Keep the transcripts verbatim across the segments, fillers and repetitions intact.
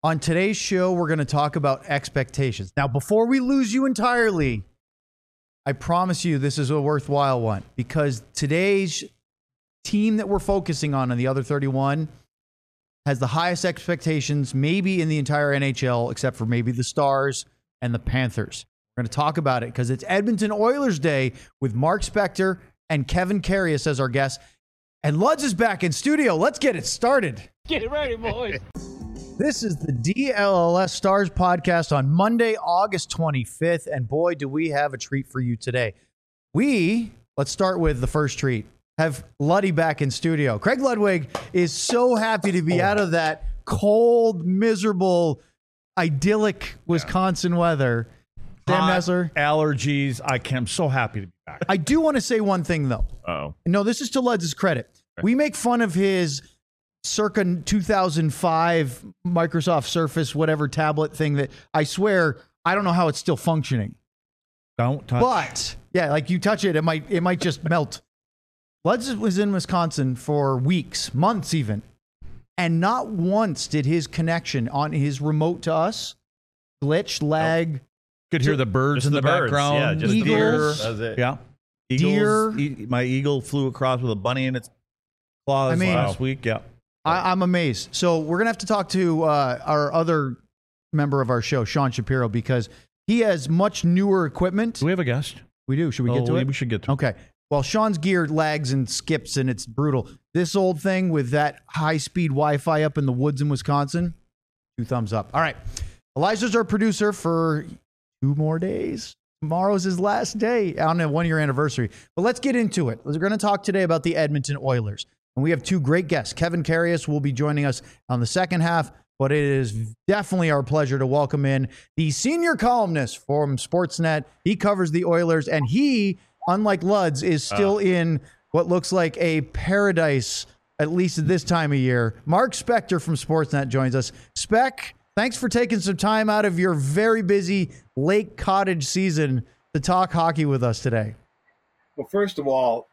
On today's show, we're going to talk about expectations. Now, before we lose you entirely, I promise you this is a worthwhile one because today's team that we're focusing on on the other thirty-one has the highest expectations maybe in the entire N H L, except for maybe the Stars and the Panthers. We're going to talk about it because it's Edmonton Oilers Day with Mark Spector and Kevin Karius as our guests. And Luds is back in studio. Let's get it started. Get ready, boys. This is the D L L S Stars podcast on Monday, August twenty-fifth. And boy, do we have a treat for you today. We, let's start with the first treat, have Luddy back in studio. Craig Ludwig is so happy to be out of that cold, miserable, idyllic Wisconsin yeah. weather. Sam Hot, Nessler. Allergies. I am so happy to be back. I do want to say one thing, though. Oh, no, this is to Luds' credit. Okay. We make fun of his circa two thousand five Microsoft Surface, whatever tablet thing that I swear, I don't know how it's still functioning. Don't touch. But yeah, like you touch it, it might, it might just melt. Luds was in Wisconsin for weeks, months even. And not once did his connection on his remote to us glitch, lag. Nope. Could hear the birds in the, the birds. background. Yeah, just Eagles. That's it. Yeah. Eagles, Deer. E- my eagle flew across with a bunny in its claws I mean, last week. Yeah. I, I'm amazed. So we're going to have to talk to uh, our other member of our show, Sean Shapiro, because he has much newer equipment. Do we have a guest? We do. Should we get oh, to we, it? We should get to okay. it. Okay. Well, Sean's gear lags and skips, and it's brutal. This old thing with that high-speed Wi-Fi up in the woods in Wisconsin, two thumbs up. All right. Elijah's our producer for two more days. Tomorrow's his last day on a one-year anniversary. But let's get into it. We're going to talk today about the Edmonton Oilers. And we have two great guests. Kevin Karius will be joining us on the second half, but it is definitely our pleasure to welcome in the senior columnist from Sportsnet. He covers the Oilers, and he, unlike Luds, is still uh. in what looks like a paradise, at least at this time of year. Mark Spector from Sportsnet joins us. Spec, thanks for taking some time out of your very busy Lake Cottage season to talk hockey with us today. Well, first of all,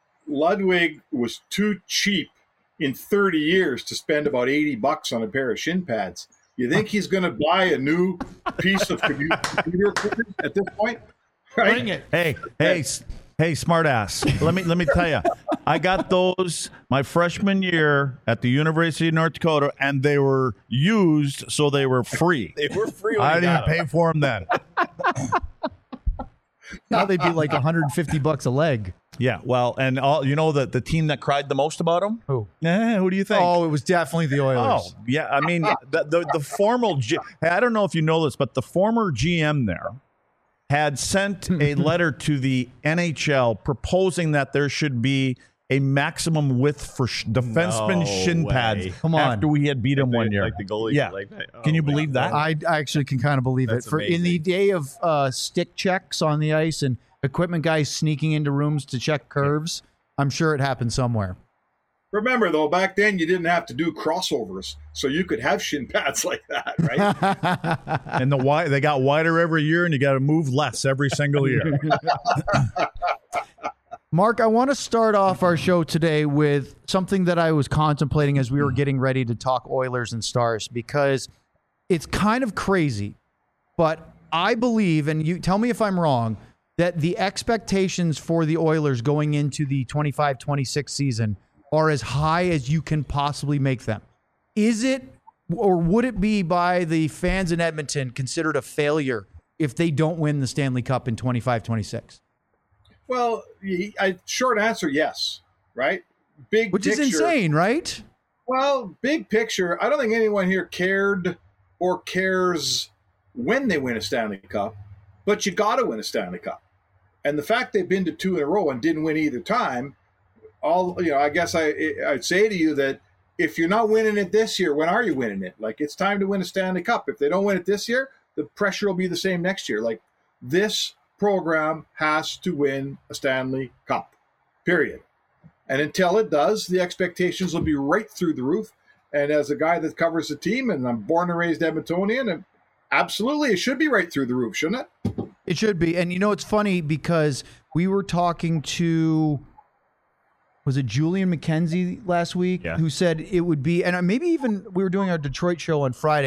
Ludwig was too cheap in thirty years to spend about eighty bucks on a pair of shin pads. You think he's going to buy a new piece of computer equipment at this point? Right? Bring it. Hey, hey, hey, smart ass. Let me let me tell you, I got those my freshman year at the University of North Dakota, and they were used, so they were free. They were free. When I didn't got pay them. for them then. Now they'd be like one hundred fifty bucks a leg. Yeah, well, and all you know the the team that cried the most about them. Who? Eh, who do you think? Oh, it was definitely the Oilers. Oh, yeah. I mean, the the, the formal. G- I don't know if you know this, but the former G M there had sent a letter to the N H L proposing that there should be a maximum width for sh- defenseman No shin way. pads. Come on. After we had beat him Like one the- year, like the goalie. Yeah. Like that. Oh, Can you man. believe that? I, I actually can kind of believe That's it. For in the amazing. day of uh, stick checks on the ice and equipment guys sneaking into rooms to check curves, I'm sure it happened somewhere. Remember, though, back then you didn't have to do crossovers, so you could have shin pads like that, right? And the wide, they got wider every year, and you got to move less every single year. Mark, I want to start off our show today with something that I was contemplating as we were getting ready to talk Oilers and Stars, because it's kind of crazy, but I believe, and you tell me if I'm wrong, that the expectations for the Oilers going into the twenty-five twenty-six season are as high as you can possibly make them. Is it, or would it be by the fans in Edmonton considered a failure if they don't win the Stanley Cup in twenty-five twenty-six? Well, I, short answer, yes, right? Big Which picture, is insane, right? Well, big picture, I don't think anyone here cared or cares when they win a Stanley Cup, but you got to win a Stanley Cup. And the fact they've been to two in a row and didn't win either time, all you know, I guess I I'd say to you that if you're not winning it this year, when are you winning it? Like, it's time to win a Stanley Cup. If they don't win it this year, the pressure will be the same next year. Like, this program has to win a Stanley Cup, period. And until it does, the expectations will be right through the roof. And as a guy that covers the team, and I'm born and raised Edmontonian, and absolutely, it should be right through the roof, shouldn't it? It should be. And you know, it's funny because we were talking to, was it Julian McKenzie last week, Yeah. who said it would be, and maybe even we were doing our Detroit show on Friday,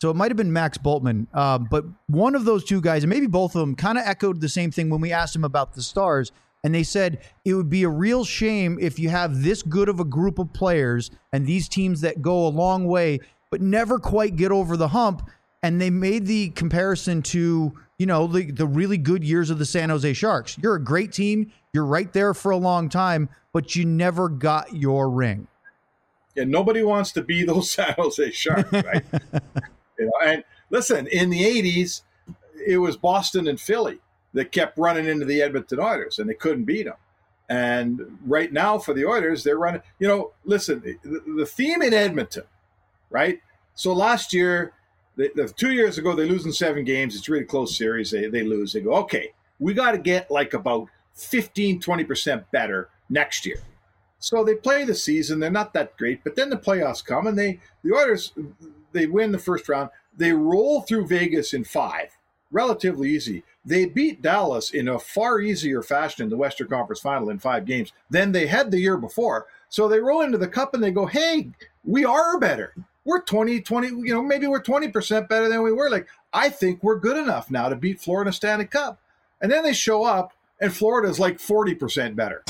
So it might have been Max Bultman, um, but one of those two guys, and maybe both of them, kind of echoed the same thing when we asked them about the Stars. And they said it would be a real shame if you have this good of a group of players and these teams that go a long way, but never quite get over the hump. And they made the comparison to, you know, the, the really good years of the San Jose Sharks. You're a great team. You're right there for a long time, but you never got your ring. And nobody wants to be those San Jose Sharks, right? you know, and listen, in the eighties, it was Boston and Philly that kept running into the Edmonton Oilers, and they couldn't beat them. And right now for the Oilers, they're running, you know, listen, the, the theme in Edmonton, right? So last year, the, the two years ago, they lose in seven games. It's a really close series. They, they lose. They go, okay, we got to get like about fifteen, twenty percent better next year. So they play the season. They're not that great, but then the playoffs come, and they the Oilers, they win the first round. They roll through Vegas in five, relatively easy. They beat Dallas in a far easier fashion in the Western Conference Final in five games than they had the year before. So they roll into the Cup and they go, hey, we are better. We're twenty, twenty, you know, maybe we're twenty percent better than we were. Like, I think we're good enough now to beat Florida Stanley Cup. And then they show up and Florida's like forty percent better.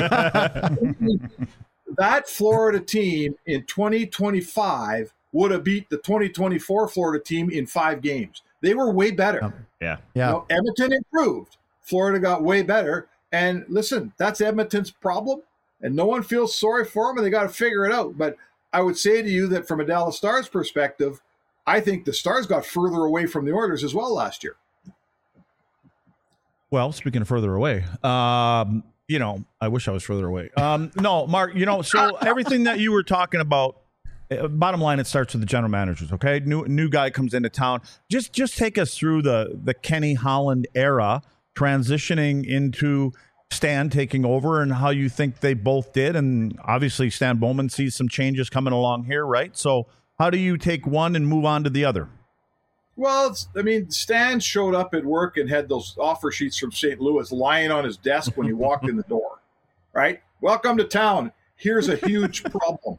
That Florida team in twenty twenty-five would have beat the twenty twenty-four Florida team in five games. They were way better. Yeah. Yeah. You know, Edmonton improved. Florida got way better. And listen, that's Edmonton's problem. And no one feels sorry for them, and they got to figure it out. But I would say to you that from a Dallas Stars perspective, I think the Stars got further away from the Oilers as well last year. Well, speaking of further away, um, you know, I wish I was further away. Um, no, Mark, you know, so everything that you were talking about, uh, bottom line, it starts with the general managers, okay? New new guy comes into town. Just just take us through the the Kenny Holland era, transitioning into Stan taking over, and how you think they both did. And obviously Stan Bowman sees some changes coming along here, right? So how do you take one and move on to the other? Well, it's, I mean, Stan showed up at work and had those offer sheets from Saint Louis lying on his desk when he walked in the door, right? Welcome to town. Here's a huge problem.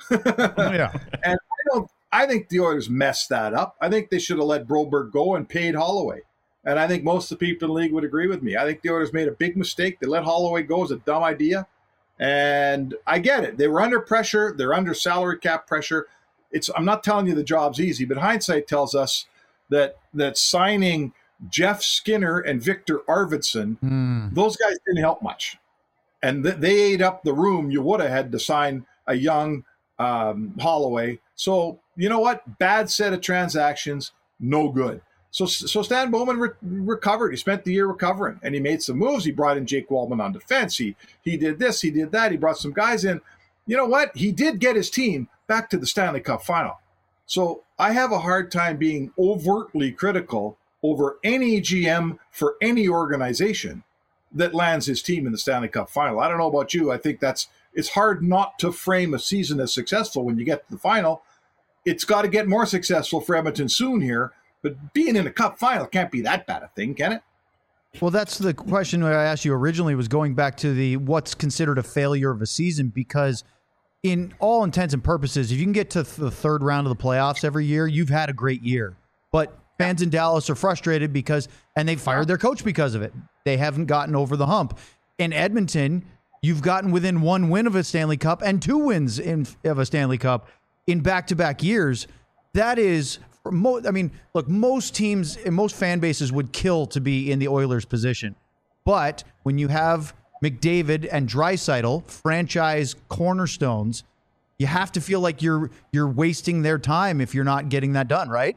Yeah. And I don't. I think the Oilers messed that up. I think they should have let Broberg go and paid Holloway. And I think most of the people in the league would agree with me. I think the Oilers made a big mistake. They let Holloway go. Is a dumb idea. And I get it. They were under pressure. They're under salary cap pressure. It's. I'm not telling you the job's easy, but hindsight tells us that that signing Jeff Skinner and Victor Arvidsson, Mm. those guys didn't help much. And th- they ate up the room you would have had to sign a young um, Holloway. So, you know what? Bad set of transactions, no good. So, so Stan Bowman re- recovered. He spent the year recovering, and he made some moves. He brought in Jake Waldman on defense. He he did this, he did that. He brought some guys in. You know what? He did get his team back to the Stanley Cup final. So I have a hard time being overtly critical over any G M for any organization that lands his team in the Stanley Cup final. I don't know about you. I think that's it's hard not to frame a season as successful when you get to the final. It's got to get more successful for Edmonton soon here, but being in a cup final can't be that bad a thing, can it? Well, that's the question I asked you originally, was going back to the what's considered a failure of a season, because in all intents and purposes, if you can get to the third round of the playoffs every year, you've had a great year. But fans in Dallas are frustrated because, and they fired their coach because of it. They haven't gotten over the hump. In Edmonton, you've gotten within one win of a Stanley Cup and two wins in of a Stanley Cup in back-to-back years. That is, mo- I mean, look, most teams and most fan bases would kill to be in the Oilers' position. But when you have McDavid and Draisaitl, franchise cornerstones, you have to feel like you're you're wasting their time if you're not getting that done, right?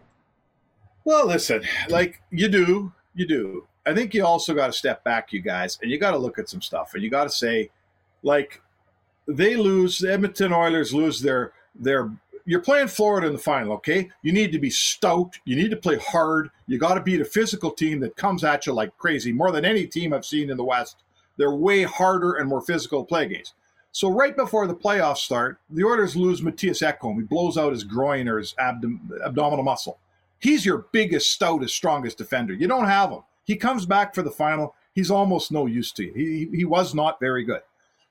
Well, listen, like you do, you do. I think you also got to step back, you guys, and you got to look at some stuff, and you got to say, like, they lose, the Edmonton Oilers lose their their. You're playing Florida in the final, okay? You need to be stout. You need to play hard. You got to beat a physical team that comes at you like crazy, more than any team I've seen in the West. They're way harder and more physical play games. So right before the playoffs start, the Oilers lose Matthias Ekholm. He blows out his groin or his abdom- abdominal muscle. He's your biggest, stoutest, strongest defender. You don't have him. He comes back for the final. He's almost no use to you. He, he was not very good.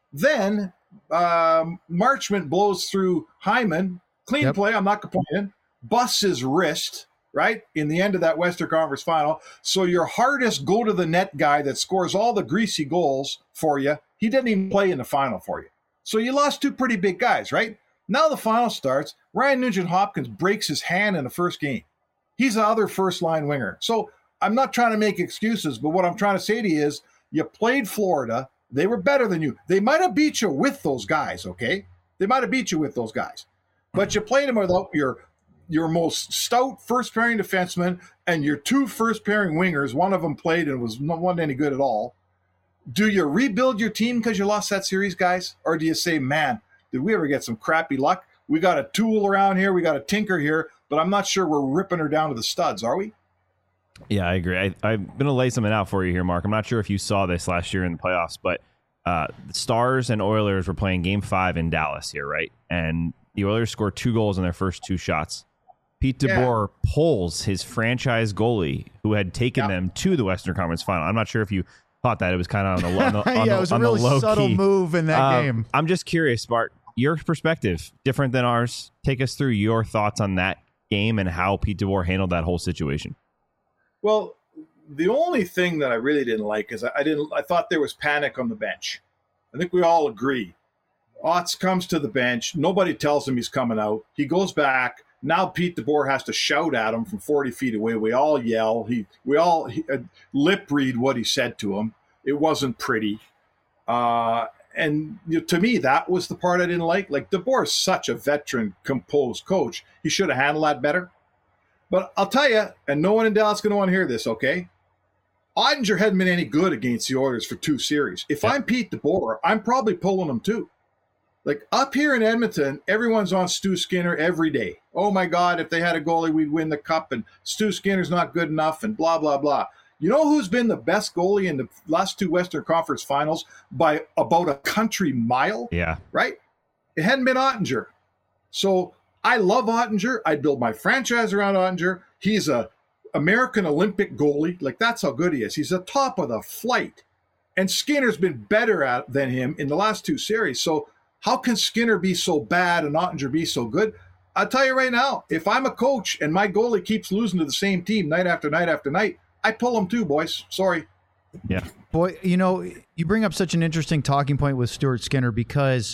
Then um, Marchment blows through Hyman. Clean Yep. play. I'm not complaining. busts his wrist, right, in the end of that Western Conference final. So your hardest go-to-the-net guy that scores all the greasy goals for you, he didn't even play in the final for you. So you lost two pretty big guys, right? Now the final starts. Ryan Nugent-Hopkins breaks his hand in the first game. He's the other first-line winger. So I'm not trying to make excuses, but what I'm trying to say to you is you played Florida. They were better than you. They might have beat you with those guys, okay? They might have beat you with those guys. But you played them without your your most stout first-pairing defenseman and your two first-pairing wingers. One of them played and was not wasn't any good at all. Do you rebuild your team because you lost that series, guys? Or do you say, man, did we ever get some crappy luck? We got a tool around here. We got a tinker here, but I'm not sure we're ripping her down to the studs, are we? Yeah, I agree. I, I'm going to lay something out for you here, Mark. I'm not sure if you saw this last year in the playoffs, but uh, the Stars and Oilers were playing game five in Dallas here, right? And the Oilers scored two goals in their first two shots. Pete DeBoer yeah. pulls his franchise goalie who had taken yeah. them to the Western Conference final. I'm not sure if you thought that. It was kind of on the, on the, on yeah, the, it was a on really the low subtle key. move in that um, game. I'm just curious, Bart, your perspective, different than ours. Take us through your thoughts on that game and how Pete DeBoer handled that whole situation. Well, the only thing that I really didn't like is I, I didn't. I thought there was panic on the bench. I think we all agree. Otts comes to the bench. Nobody tells him he's coming out. He goes back. Now Pete DeBoer has to shout at him from forty feet away. We all yell. He, we all he, uh, lip read what he said to him. It wasn't pretty. Uh, and you know, to me, that was the part I didn't like. Like, DeBoer is such a veteran, composed coach. He should have handled that better. But I'll tell you, and no one in Dallas is going to want to hear this, okay? Ottinger hadn't been any good against the Oilers for two series. If yeah. I'm Pete DeBoer, I'm probably pulling him too. Like, up here in Edmonton, everyone's on Stu Skinner every day. Oh, my God, if they had a goalie, we'd win the cup, and Stu Skinner's not good enough, and blah, blah, blah. You know who's been the best goalie in the last two Western Conference finals by about a country mile? Yeah. Right? It hadn't been Ottinger. So I love Ottinger. I'd build my franchise around Ottinger. He's a American Olympic goalie. Like, that's how good he is. He's the top of the flight. And Skinner's been better at than him in the last two series. So how can Skinner be so bad and Ottinger be so good? I'll tell you right now, if I'm a coach and my goalie keeps losing to the same team night after night after night, I pull him too, boys. Sorry. Yeah. Boy, you know, you bring up such an interesting talking point with Stuart Skinner because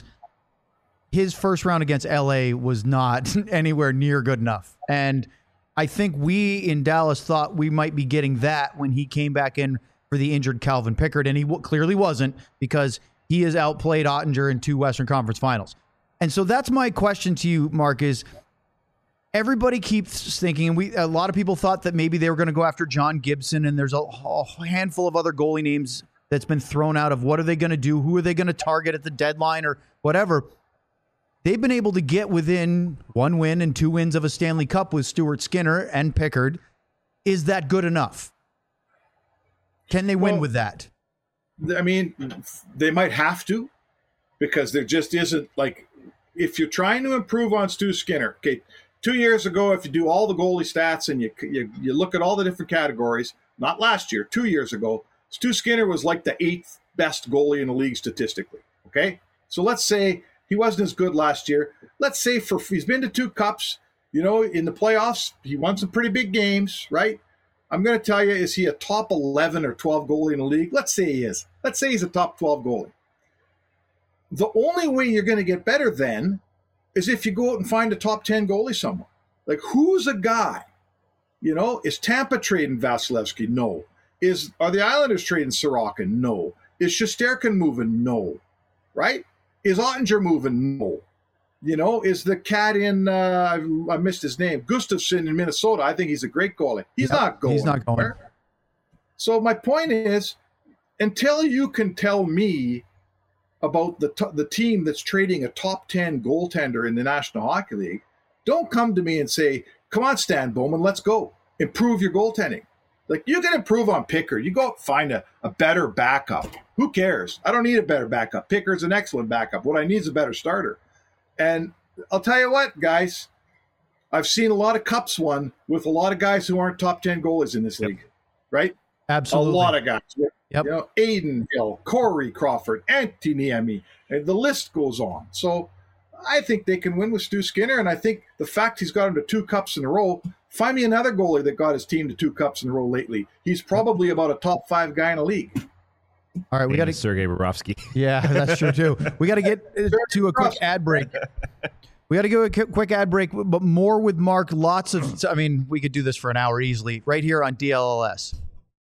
his first round against L A was not anywhere near good enough. And I think we in Dallas thought we might be getting that when he came back in for the injured Calvin Pickard, and he w- clearly wasn't because he has outplayed Ottinger in two Western Conference finals. And so that's my question to you, Mark, is everybody keeps thinking, and we a lot of people thought that maybe they were going to go after John Gibson, and there's a, a handful of other goalie names that's been thrown out of what are they going to do, who are they going to target at the deadline or whatever. They've been able to get within one win and two wins of a Stanley Cup with Stuart Skinner and Pickard. Is that good enough? Can they win well, with that? I mean, they might have to, because there just isn't, like, if you're trying to improve on Stu Skinner, okay, two years ago, if you do all the goalie stats and you, you you look at all the different categories, not last year, two years ago, Stu Skinner was like the eighth best goalie in the league statistically, okay? So let's say he wasn't as good last year. Let's say for he's been to two cups, you know, in the playoffs, he won some pretty big games, right? I'm going to tell you, is he a top eleven or twelve goalie in the league? Let's say he is. Let's say he's a top twelve goalie. The only way you're going to get better then is if you go out and find a top ten goalie somewhere. Like, who's a guy? You know, is Tampa trading Vasilevsky? No. Is Are the Islanders trading Sorokin? No. Is Shesterkin moving? No. Right? Is Ottinger moving? No. You know, is the cat in, uh, I missed his name, Gustafsson in Minnesota? I think he's a great goalie. He's yep, not going. He's not going. Anywhere. So my point is, until you can tell me about the t- the team that's trading a top ten goaltender in the National Hockey League, don't come to me and say, come on, Stan Bowman, let's go. Improve your goaltending. Like, you can improve on Pickard. You go out and find a, a better backup. Who cares? I don't need a better backup. Pickard's an excellent backup. What I need is a better starter. And I'll tell you what, guys, I've seen a lot of cups won with a lot of guys who aren't top ten goalies in this league, yep. right? Absolutely. A lot of guys. Yep. You know, Aiden Hill, Corey Crawford, Antti Niemi, and the list goes on. So I think they can win with Stu Skinner, and I think the fact he's got him to two cups in a row. Find me another goalie that got his team to two cups in a row lately. He's probably about a top five guy in the league. All right, we got to Sergei Bobrovsky. Yeah, that's true too. We got to get to a quick ad break. We got to go a quick ad break, but more with Mark. Lots of, I mean, we could do this for an hour easily right here on D L L S.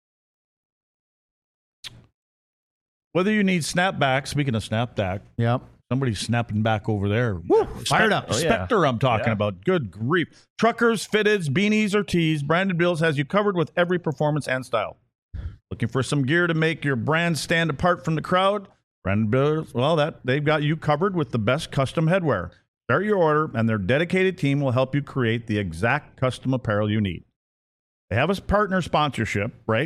Whether you need snapback, speaking of snapback, Yep. somebody's snapping back over there. Woo, fired up. Oh, yeah. Spectre, I'm talking Yeah. about. Good grief. Truckers, fitteds, beanies, or tees, Branded Bills has you covered with every performance and style. Looking for some gear to make your brand stand apart from the crowd? Branded Bills, well, that they've got you covered with the best custom headwear. Start your order, and their dedicated team will help you create the exact custom apparel you need. They have a partner sponsorship, right?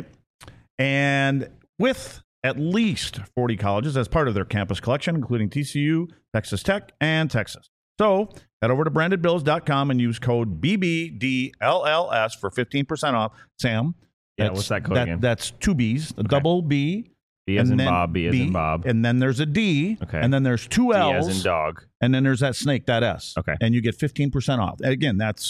And with at least forty colleges as part of their campus collection, including T C U, Texas Tech, and Texas. So head over to branded bills dot com and use code B B D L L S for fifteen percent off. Sam, Yeah, that's- what's that code again? That's two B's, a double B. B as and in then Bob, B as in Bob. And then there's a D. Okay. And then there's two D L's. as in dog. And then there's that snake, that S. Okay. And you get fifteen percent off. Again, that's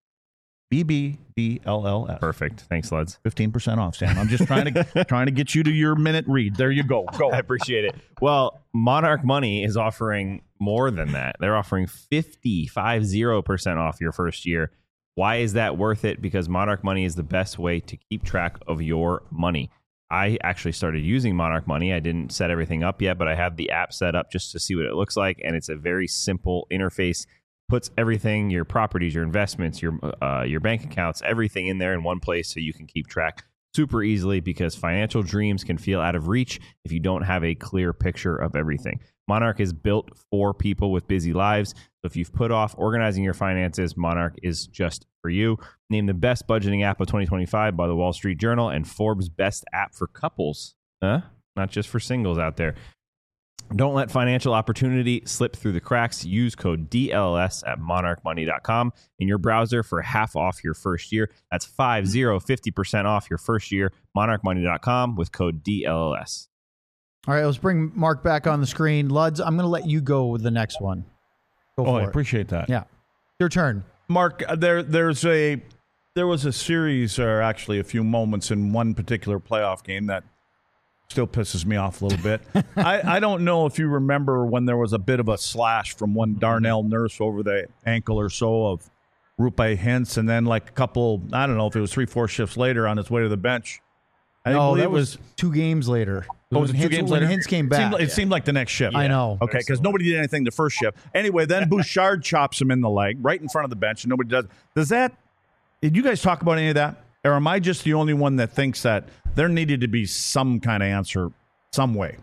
B B D L L S. Perfect. Thanks, Luds. fifteen percent off, Sam. I'm just trying to trying to get you to your minute read. There you go. Go. I appreciate it. Well, Monarch Money is offering more than that. They're offering fifty, five zero percent off your first year. Why is that worth it? Because Monarch Money is the best way to keep track of your money. I actually started using Monarch Money. I didn't set everything up yet, but I have the app set up just to see what it looks like. And it's a very simple interface. Puts everything, your properties, your investments, your uh, your bank accounts, everything in there in one place so you can keep track super easily, because financial dreams can feel out of reach if you don't have a clear picture of everything. Monarch is built for people with busy lives. So if you've put off organizing your finances, Monarch is just for you. Named the best budgeting app of twenty twenty-five by the Wall Street Journal and Forbes' best app for couples. Huh? Not just for singles out there. Don't let financial opportunity slip through the cracks. Use code D L L S at monarch money dot com in your browser for half off your first year. That's five zero, fifty percent off your first year. monarch money dot com with code D L L S. All right, let's bring Mark back on the screen. Luds, I'm going to let you go with the next one. Go Oh, for I it. appreciate that. Yeah. Your turn. Mark, uh, there there's a there was a series, or actually a few moments in one particular playoff game that still pisses me off a little bit. I, I don't know if you remember when there was a bit of a slash from one Darnell Nurse over the ankle or so of Roope Hintz, and then like a couple, I don't know if it was three, four shifts later on his way to the bench. I No, believe that it was, two games later. Oh, was it two Hintz- games when later? Hintz came It back. seemed like, it seemed like the next shift. I know. Okay, because nobody did anything the first shift. Anyway, then Bouchard chops him in the leg right in front of the bench, and nobody does. Does that? Did you guys talk about any of that, or am I just the only one that thinks that there needed to be some kind of answer, some way?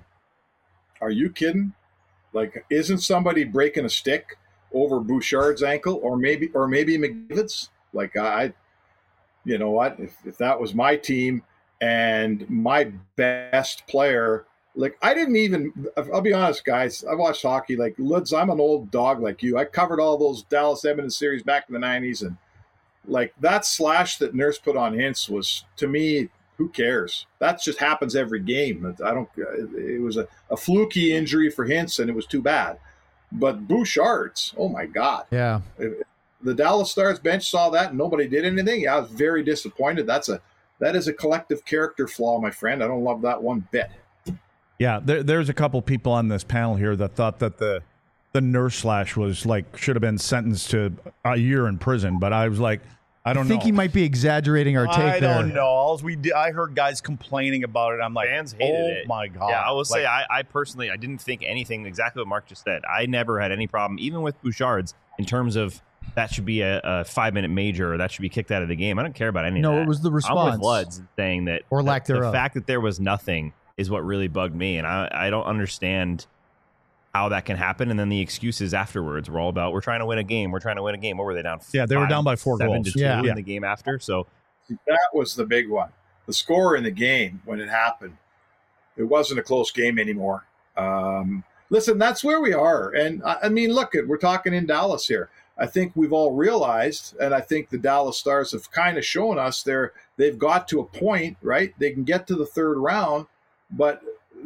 Are you kidding? Like, isn't somebody breaking a stick over Bouchard's ankle, or maybe, or maybe McDavid's? Like, I, you know what? If, if that was my team and my best player, like, I didn't even. I'll be honest, guys. I watched hockey. Like, Luds, I'm an old dog like you. I covered all those Dallas Edmonton series back in the nineties, and like that slash that Nurse put on Hintz was, to me, who cares? That just happens every game. I don't. It was a, a fluky injury for Hintz, and it was too bad. But Bouchard's, oh my God! Yeah. The Dallas Stars bench saw that, and nobody did anything. Yeah, I was very disappointed. That's a that is a collective character flaw, my friend. I don't love that one bit. Yeah, there, there's a couple people on this panel here that thought that the the Nurse slash was like should have been sentenced to a year in prison, but I was like, I don't I think know. he might be exaggerating our take I there. don't know. All we did, I heard guys complaining about it. I'm like, Fans hated oh it. my God. Yeah, I will Like, say, I, I personally, I didn't think anything exactly what Mark just said. I never had any problem, even with Bouchard's, in terms of that should be a, a five-minute major or that should be kicked out of the game. I don't care about any No, of that. it was the I'm response. with Luds saying that Or the, lack the thereof. fact that there was nothing is what really bugged me, and I, I don't understand how that can happen. And then the excuses afterwards were all about, we're trying to win a game. We're trying to win a game. What were they down? Yeah, they were five, down by four seven goals. to two Yeah. in Yeah. the game after. So That was the big one. The score in the game when it happened, it wasn't a close game anymore. Um, listen, that's where we are. And I, I mean, look, at we're talking in Dallas here. I think we've all realized, and I think the Dallas Stars have kind of shown us they're they've got to a point, right? They can get to the third round, but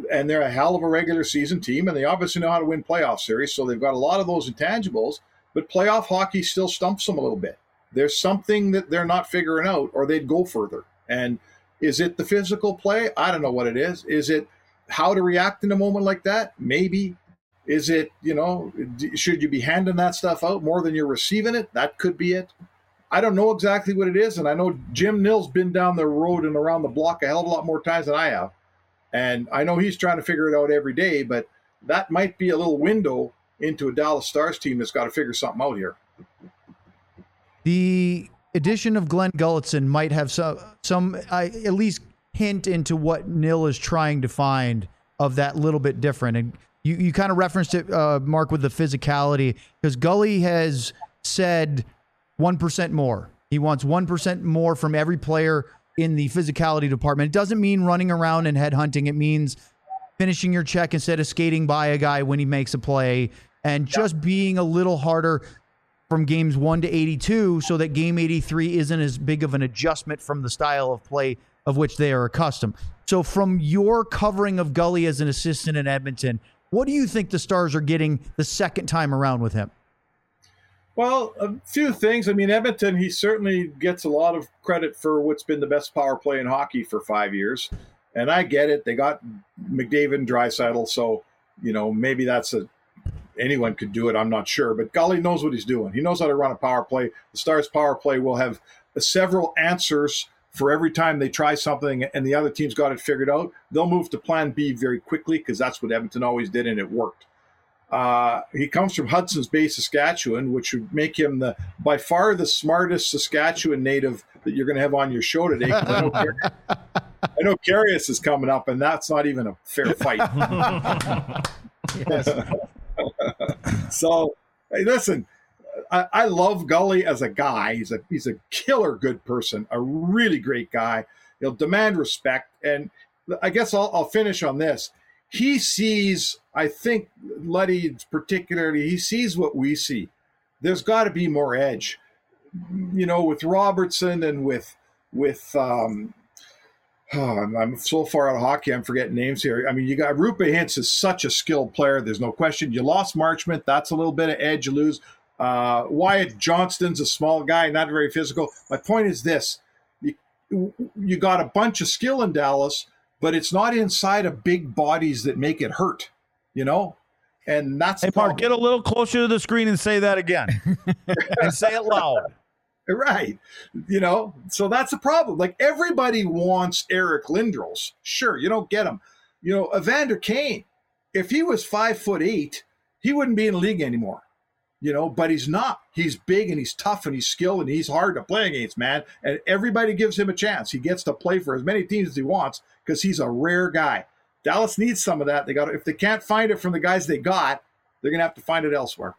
and they're a hell of a regular season team, and they obviously know how to win playoff series, so they've got a lot of those intangibles, but playoff hockey still stumps them a little bit. There's something that they're not figuring out, or they'd go further. And is it the physical play? I don't know what it is. Is it how to react in a moment like that? Maybe. Is it, you know, should you be handing that stuff out more than you're receiving it? That could be it. I don't know exactly what it is, and I know Jim Nill's been down the road and around the block a hell of a lot more times than I have. And I know he's trying to figure it out every day, but that might be a little window into a Dallas Stars team that's got to figure something out here. The addition of Glenn Gulletson might have some, some uh, at least hint into what Nill is trying to find of that little bit different. And you, you kind of referenced it, uh, Mark, with the physicality, because Gully has said one percent more. He wants one percent more from every player in the physicality department. It doesn't mean running around and headhunting. It means finishing your check instead of skating by a guy when he makes a play, and just being a little harder from games one to eighty-two so that game eighty-three isn't as big of an adjustment from the style of play of which they are accustomed. So from your covering of Gully as an assistant in Edmonton, what do you think the Stars are getting the second time around with him? Well, a few things. I mean, Edmonton, he certainly gets a lot of credit for what's been the best power play in hockey for five years. And I get it. They got McDavid and Draisaitl, so, you know, maybe that's a anyone could do it. I'm not sure. But Gully knows what he's doing. He knows how to run a power play. The Stars' power play will have several answers for every time they try something and the other team's got it figured out. They'll move to plan B very quickly because that's what Edmonton always did, and it worked. Uh, he comes from Hudson's Bay, Saskatchewan, which would make him the by far the smartest Saskatchewan native that you're going to have on your show today. I know, Carius, I know Carius is coming up, and that's not even a fair fight. So, hey, listen, I, I love Gully as a guy. He's a he's a killer good person, a really great guy. He'll demand respect, and I guess I'll, I'll finish on this. He sees, I think, Luddy particularly, he sees what we see. There's got to be more edge. You know, with Robertson and with, with um, oh, I'm, I'm so far out of hockey, I'm forgetting names here. I mean, you got Rupe Hintz is such a skilled player. There's no question. You lost Marchment. That's a little bit of edge you lose. Uh, Wyatt Johnston's a small guy, not very physical. My point is this. You, you got a bunch of skill in Dallas, but it's not inside of big bodies that make it hurt, you know? And that's Hey, Mark, get a little closer to the screen and say that again. And say it loud. Right. You know, so that's the problem. Like, everybody wants Eric Lindros. Sure, you don't get him. You know, Evander Kane, if he was five foot eight, he wouldn't be in the league anymore. You know, but he's not. He's big and he's tough and he's skilled and he's hard to play against, man. And everybody gives him a chance. He gets to play for as many teams as he wants because he's a rare guy. Dallas needs some of that. They got if they can't find it from the guys they got, they're gonna have to find it elsewhere.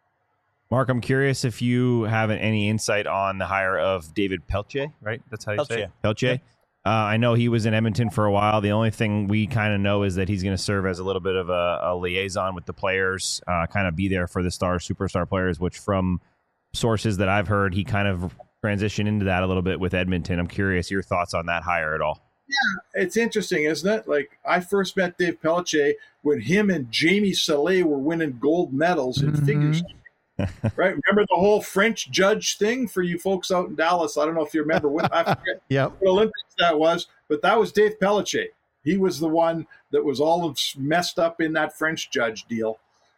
Mark, I'm curious if you have any insight on the hire of David Pelche, right? That's how you say it? Pelche. Yeah. Uh, I know he was in Edmonton for a while. The only thing we kind of know is that he's going to serve as a little bit of a, a liaison with the players, uh, kind of be there for the star, superstar players, which from sources that I've heard, he kind of transitioned into that a little bit with Edmonton. I'm curious your thoughts on that hire at all. Yeah, it's interesting, isn't it? Like, I first met Dave Pelche when him and Jamie Salé were winning gold medals in mm-hmm. figures. Right? Remember the whole French judge thing for you folks out in Dallas? I don't know if you remember what, I forget yep. what Olympics that was, but that was Dave Pelche. He was the one that was all messed up in that French judge deal.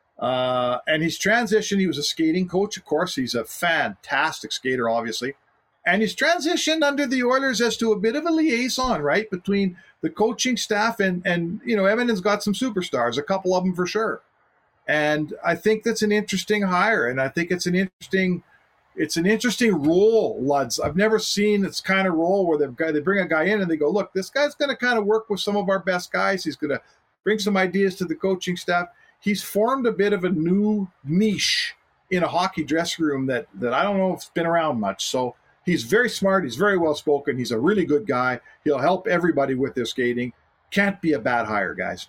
Uh, and he's transitioned. He was a skating coach, of course. He's a fantastic skater, obviously. And he's transitioned under the Oilers as to a bit of a liaison, right, between the coaching staff and, and you know, Edmonton's got some superstars, a couple of them for sure. And I think that's an interesting hire, and I think it's an interesting, it's an interesting role, Luds. I've never seen this kind of role where they've got, they bring a guy in and they go, look, this guy's going to kind of work with some of our best guys. He's going to bring some ideas to the coaching staff. He's formed a bit of a new niche in a hockey dressing room that that I don't know if it's been around much. So he's very smart. He's very well spoken. He's a really good guy. He'll help everybody with their skating. Can't be a bad hire, guys.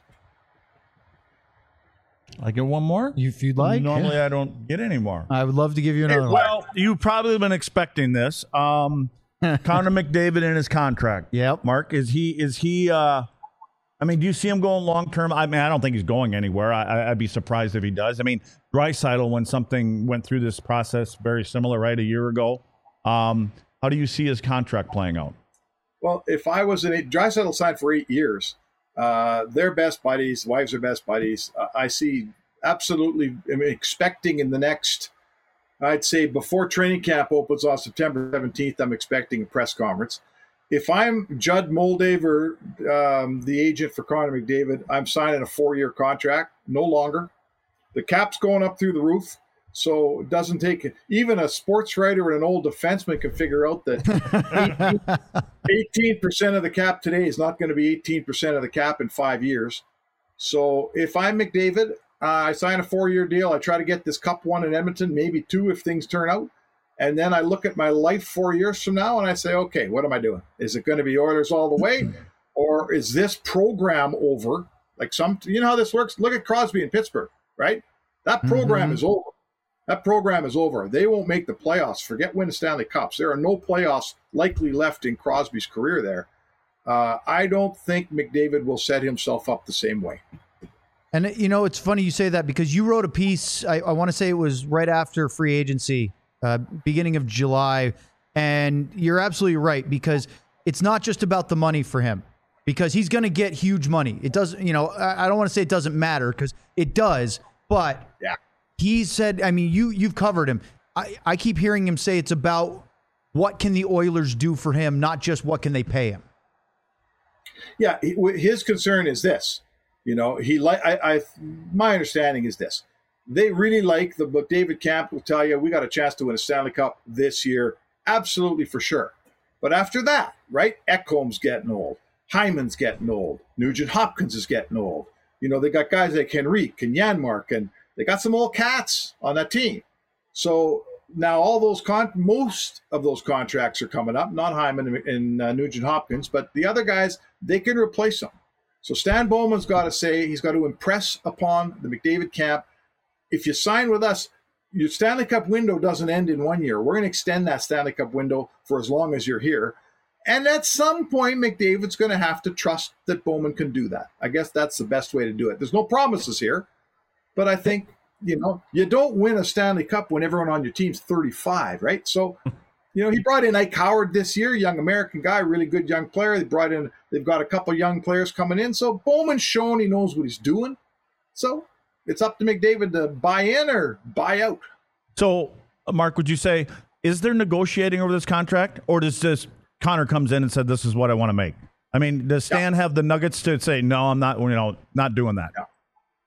I get one more? If you'd like. Normally yeah. I don't get any more. I would love to give you another hey, one. Well, you've probably been expecting this. Um, Connor McDavid in his contract. Yep. Mark, is he is he uh, I mean, do you see him going long term? I mean, I don't think he's going anywhere. I, I'd be surprised if he does. I mean, Draisaitl, when something went through this process very similar, right, a year ago. Um, how do you see his contract playing out? Well, if I was an Draisaitl signed for eight years, uh, they're best buddies. Wives are best buddies. Uh, I see absolutely I mean, expecting in the next, I'd say before training camp opens on September seventeenth, I'm expecting a press conference. If I'm Judd Moldaver, um, the agent for Connor McDavid, I'm signing a four-year contract, no longer. The cap's going up through the roof, so it doesn't take – even a sports writer and an old defenseman can figure out that eighteen percent of the cap today is not going to be eighteen percent of the cap in five years. So if I'm McDavid, uh, I sign a four-year deal. I try to get this cup one in Edmonton, maybe two if things turn out. And then I look at my life four years from now and I say, okay, what am I doing? Is it going to be Oilers all the way? Or is this program over? Like some, you know how this works? Look at Crosby in Pittsburgh, right? That program Mm-hmm. is over. That program is over. They won't make the playoffs. Forget winning Stanley Cups. There are no playoffs likely left in Crosby's career there. Uh, I don't think McDavid will set himself up the same way. And, you know, it's funny you say that because you wrote a piece, I, I want to say it was right after free agency, uh, beginning of July. And you're absolutely right, because it's not just about the money for him, because he's going to get huge money. It doesn't, you know, I, I don't want to say it doesn't matter, because it does, but Yeah. he said, I mean, you, you've covered him. I, I keep hearing him say it's about what can the Oilers do for him, not just what can they pay him. Yeah, he- his concern is this. You know, he like I, I. My understanding is this: they really like the. But David Camp will tell you, we got a chance to win a Stanley Cup this year, absolutely for sure. But after that, right? Ekholm's getting old, Hyman's getting old, Nugent Hopkins is getting old. You know, they got guys like Henrique and Janmark, and they got some old cats on that team. So now all those con, most of those contracts are coming up. Not Hyman and, and uh, Nugent Hopkins, but the other guys, they can replace them. So Stan Bowman's got to say, he's got to impress upon the McDavid camp. If you sign with us, your Stanley Cup window doesn't end in one year. We're going to extend that Stanley Cup window for as long as you're here. And at some point, McDavid's going to have to trust that Bowman can do that. I guess that's the best way to do it. There's no promises here, but I think, you know, you don't win a Stanley Cup when everyone on your team's thirty-five, right? So, you know, he brought in Ike Howard this year, young American guy, really good young player. They brought in, they've got a couple young players coming in. So Bowman's shown he knows what he's doing. So it's up to McDavid to buy in or buy out. So, Mark, would you say, is there negotiating over this contract, or does this Connor comes in and said, this is what I want to make? I mean, does Stan yeah. have the nuggets to say, no, I'm not, you know, not doing that? Yeah.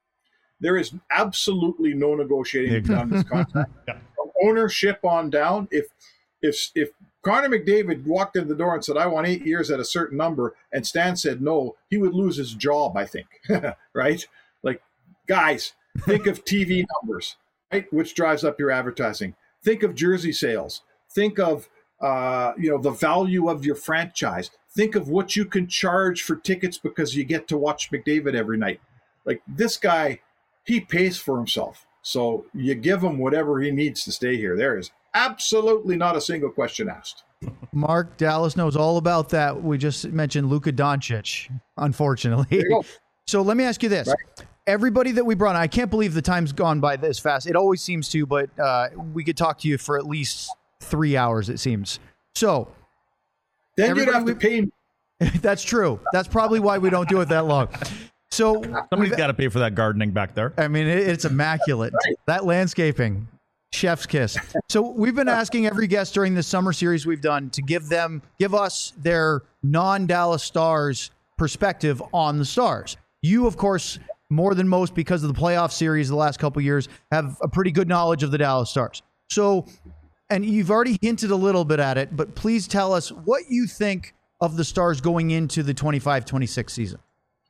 There is absolutely no negotiating on this contract. Yeah. From ownership on down, if if if Connor McDavid walked in the door and said, I want eight years at a certain number, and Stan said no, he would lose his job, I think. Right? Like, guys, think of T V numbers, right? Which drives up your advertising. Think of jersey sales. Think of uh, you know, the value of your franchise. Think of what you can charge for tickets because you get to watch McDavid every night. Like, this guy, he pays for himself. So you give him whatever he needs to stay here. There is absolutely not a single question asked. Mark, Dallas knows all about that. We just mentioned Luka Doncic, unfortunately. There you go. So let me ask you this. Right. Everybody that we brought on, I can't believe the time's gone by this fast. It always seems to, but uh, we could talk to you for at least three hours, it seems. So then you'd have to pay me. That's true. That's probably why we don't do it that long. So somebody's got to pay for that gardening back there. I mean, it, it's immaculate. Right. That landscaping, chef's kiss. So we've been asking every guest during this summer series we've done to give them, give us their non-Dallas Stars perspective on the Stars. You, of course, more than most because of the playoff series the last couple of years, have a pretty good knowledge of the Dallas Stars. So, and you've already hinted a little bit at it, but please tell us what you think of the Stars going into the twenty-five twenty-six season.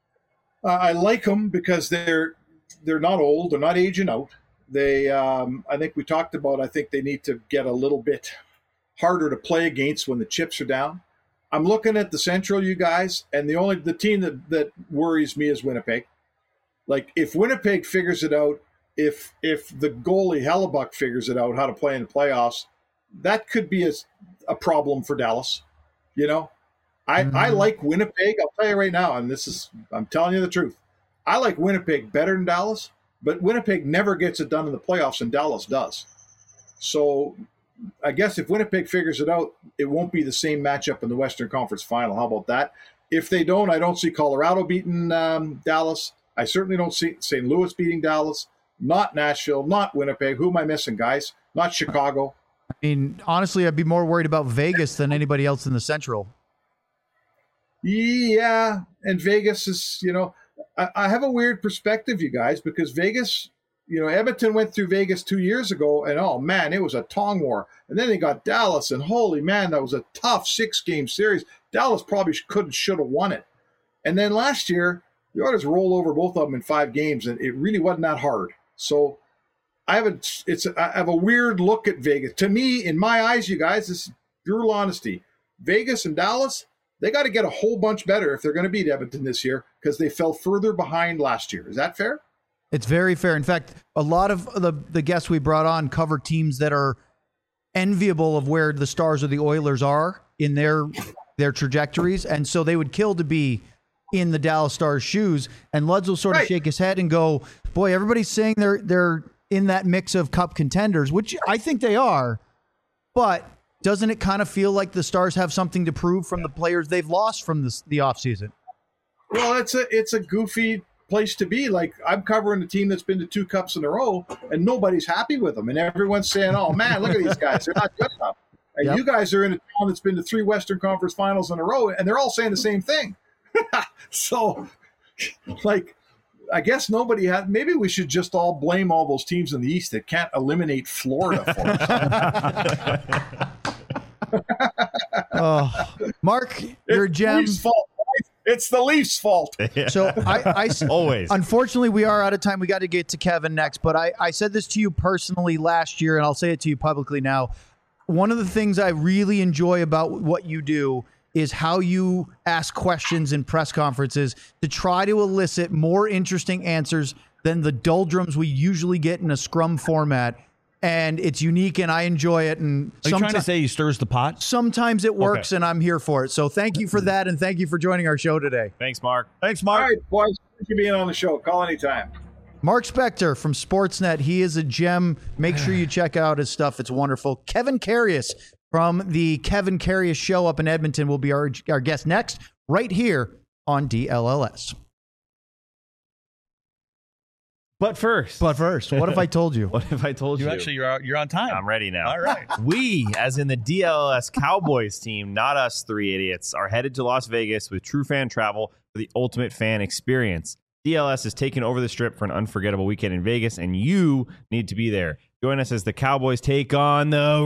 Uh, I like them because they're they're not old, they're not aging out. They, um, I think we talked about. I think they need to get a little bit harder to play against when the chips are down. I'm looking at the Central, you guys, and the only the team that, that worries me is Winnipeg. Like, if Winnipeg figures it out, if if the goalie Hellebuck figures it out how to play in the playoffs, that could be a, a problem for Dallas. You know, I, Mm-hmm. I like Winnipeg. I'll tell you right now, and this is I'm telling you the truth. I like Winnipeg better than Dallas, but Winnipeg never gets it done in the playoffs, and Dallas does. So I guess if Winnipeg figures it out, it won't be the same matchup in the Western Conference Final. How about that? If they don't, I don't see Colorado beating um, Dallas. I certainly don't see Saint Louis beating Dallas. Not Nashville, not Winnipeg. Who am I missing, guys? Not Chicago. I mean, honestly, I'd be more worried about Vegas than anybody else in the Central. Yeah, and Vegas is, you know, I, I have a weird perspective, you guys, because Vegas, you know, Edmonton went through Vegas two years ago, and oh man, it was a tong war. And then they got Dallas, and holy man, that was a tough six-game series. Dallas probably couldn't, should have won it. And then last year, the Oilers rolled over both of them in five games, and it really wasn't that hard. So I have a, it's a, I have a weird look at Vegas. To me, in my eyes, you guys, this is brutal honesty. Vegas and Dallas, they got to get a whole bunch better if they're going to beat Edmonton this year because they fell further behind last year. Is that fair? It's very fair. In fact, a lot of the, the guests we brought on cover teams that are enviable of where the Stars or the Oilers are in their their trajectories. And so they would kill to be in the Dallas Stars' shoes. And Luds will sort of Right. shake his head and go, boy, everybody's saying they're they're in that mix of cup contenders, which I think they are. But doesn't it kind of feel like the Stars have something to prove from the players they've lost from this, the offseason? Well, it's a it's a goofy place to be. Like, I'm covering a team that's been to two cups in a row, and nobody's happy with them, and everyone's saying, "Oh man, look at these guys; they're not good enough." And Yep. you guys are in a town that's been to three Western Conference Finals in a row, and they're all saying the same thing. So, like, I guess nobody had. Maybe we should just all blame all those teams in the East that can't eliminate Florida for us. Oh, Mark, you're a It's the gem. Leafs' fault. Guys. It's the Leafs' fault. So I, I Always. Unfortunately, we are out of time. We got to get to Kevin next, but I, I said this to you personally last year, and I'll say it to you publicly now. One of the things I really enjoy about what you do is how you ask questions in press conferences to try to elicit more interesting answers than the doldrums we usually get in a scrum format. And it's unique, and I enjoy it. And Are you trying to someti- say he stirs the pot? sometimes it works, Okay. and I'm here for it. So thank you for that, and thank you for joining our show today. Thanks, Mark. Thanks, All Mark. right, boys. Thank you for being on the show. Call anytime. Mark Spector from Sportsnet. He is a gem. Make sure you check out his stuff. It's wonderful. Kevin Karius from the Kevin Karius Show up in Edmonton will be our, our guest next, right here on D L L S. But first, But first, what if I told you? what if I told you? You actually, you're out, you're on time. I'm ready now. All right. We, as in the D L L S Cowboys team, not us three idiots, are headed to Las Vegas with True Fan Travel for the ultimate fan experience. D L S is taking over the Strip for an unforgettable weekend in Vegas, and you need to be there. Join us as the Cowboys take on the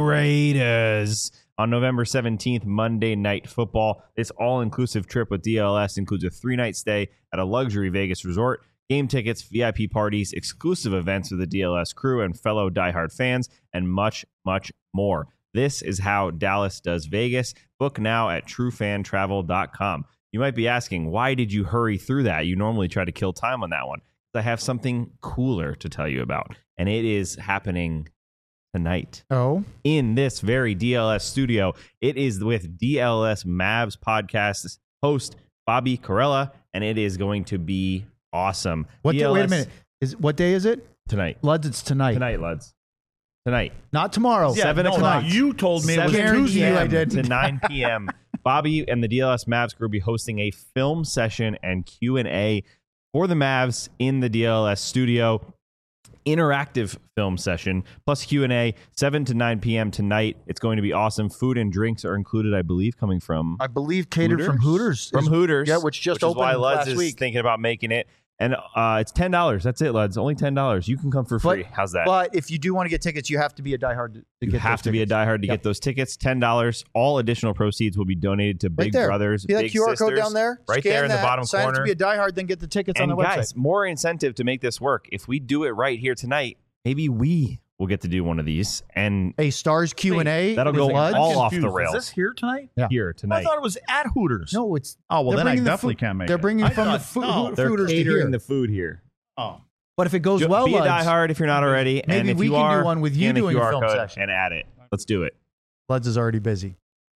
Raiders on November seventeenth, Monday Night Football. This all-inclusive trip with D L S includes a three-night stay at a luxury Vegas resort, game tickets, V I P parties, exclusive events with the D L S crew and fellow diehard fans, and much, much more. This is how Dallas does Vegas. Book now at true fan travel dot com. You might be asking, why did you hurry through that? You normally try to kill time on that one. I have something cooler to tell you about, and it is happening tonight Oh, in this very D L S studio. It is with D L S Mavs podcast host Bobby Carella, and it is going to be awesome. what? Day, D L S wait a minute. Is what day is it? Tonight. Luds, it's tonight. Tonight, lads. Tonight. Not tomorrow. Yeah, Seven no, o'clock. You told me it was Guarantee Tuesday. you I p.m. did. to nine p.m. Bobby and the D L S Mavs crew will be hosting a film session and Q and A for the Mavs in the D L S studio. Interactive film session plus Q and A, seven to nine p.m. tonight. It's going to be awesome. Food and drinks are included, I believe, coming from I believe catered from Hooters. From is- Hooters. Yeah, which just is why opened Luds last is week. thinking about making it. And uh, it's ten dollars. That's it, Luds. Only ten dollars. You can come for free. But- How's that? But if you do want to get tickets, you have to be a diehard to, to you get have those to be a tickets. diehard to Yep. get those tickets. ten dollars. All additional proceeds will be donated to Big Right there. Brothers, See that Big Q R Sisters. code down there? Right Scan there in the that, bottom sign corner. up to be a diehard, then get the tickets And on the guys, website. more incentive to make this work. If we do it right here tonight, maybe we will get to do one of these. And A Stars Q and A. that'll with go Luds. all off the Confused. rails. Is this here tonight? Yeah. here I tonight. thought it was at Hooters. No, it's Oh, well, they're then I bringing the definitely food- can't make They're it. bringing I from the thought- food, no. They're Hooters to catering here. the food here. Oh. But if it goes well, be a Luds, diehard if you're not already. maybe and if we you can do are, one with you scan the doing a Q R film code session. and add it. Let's do it. Luds is already busy.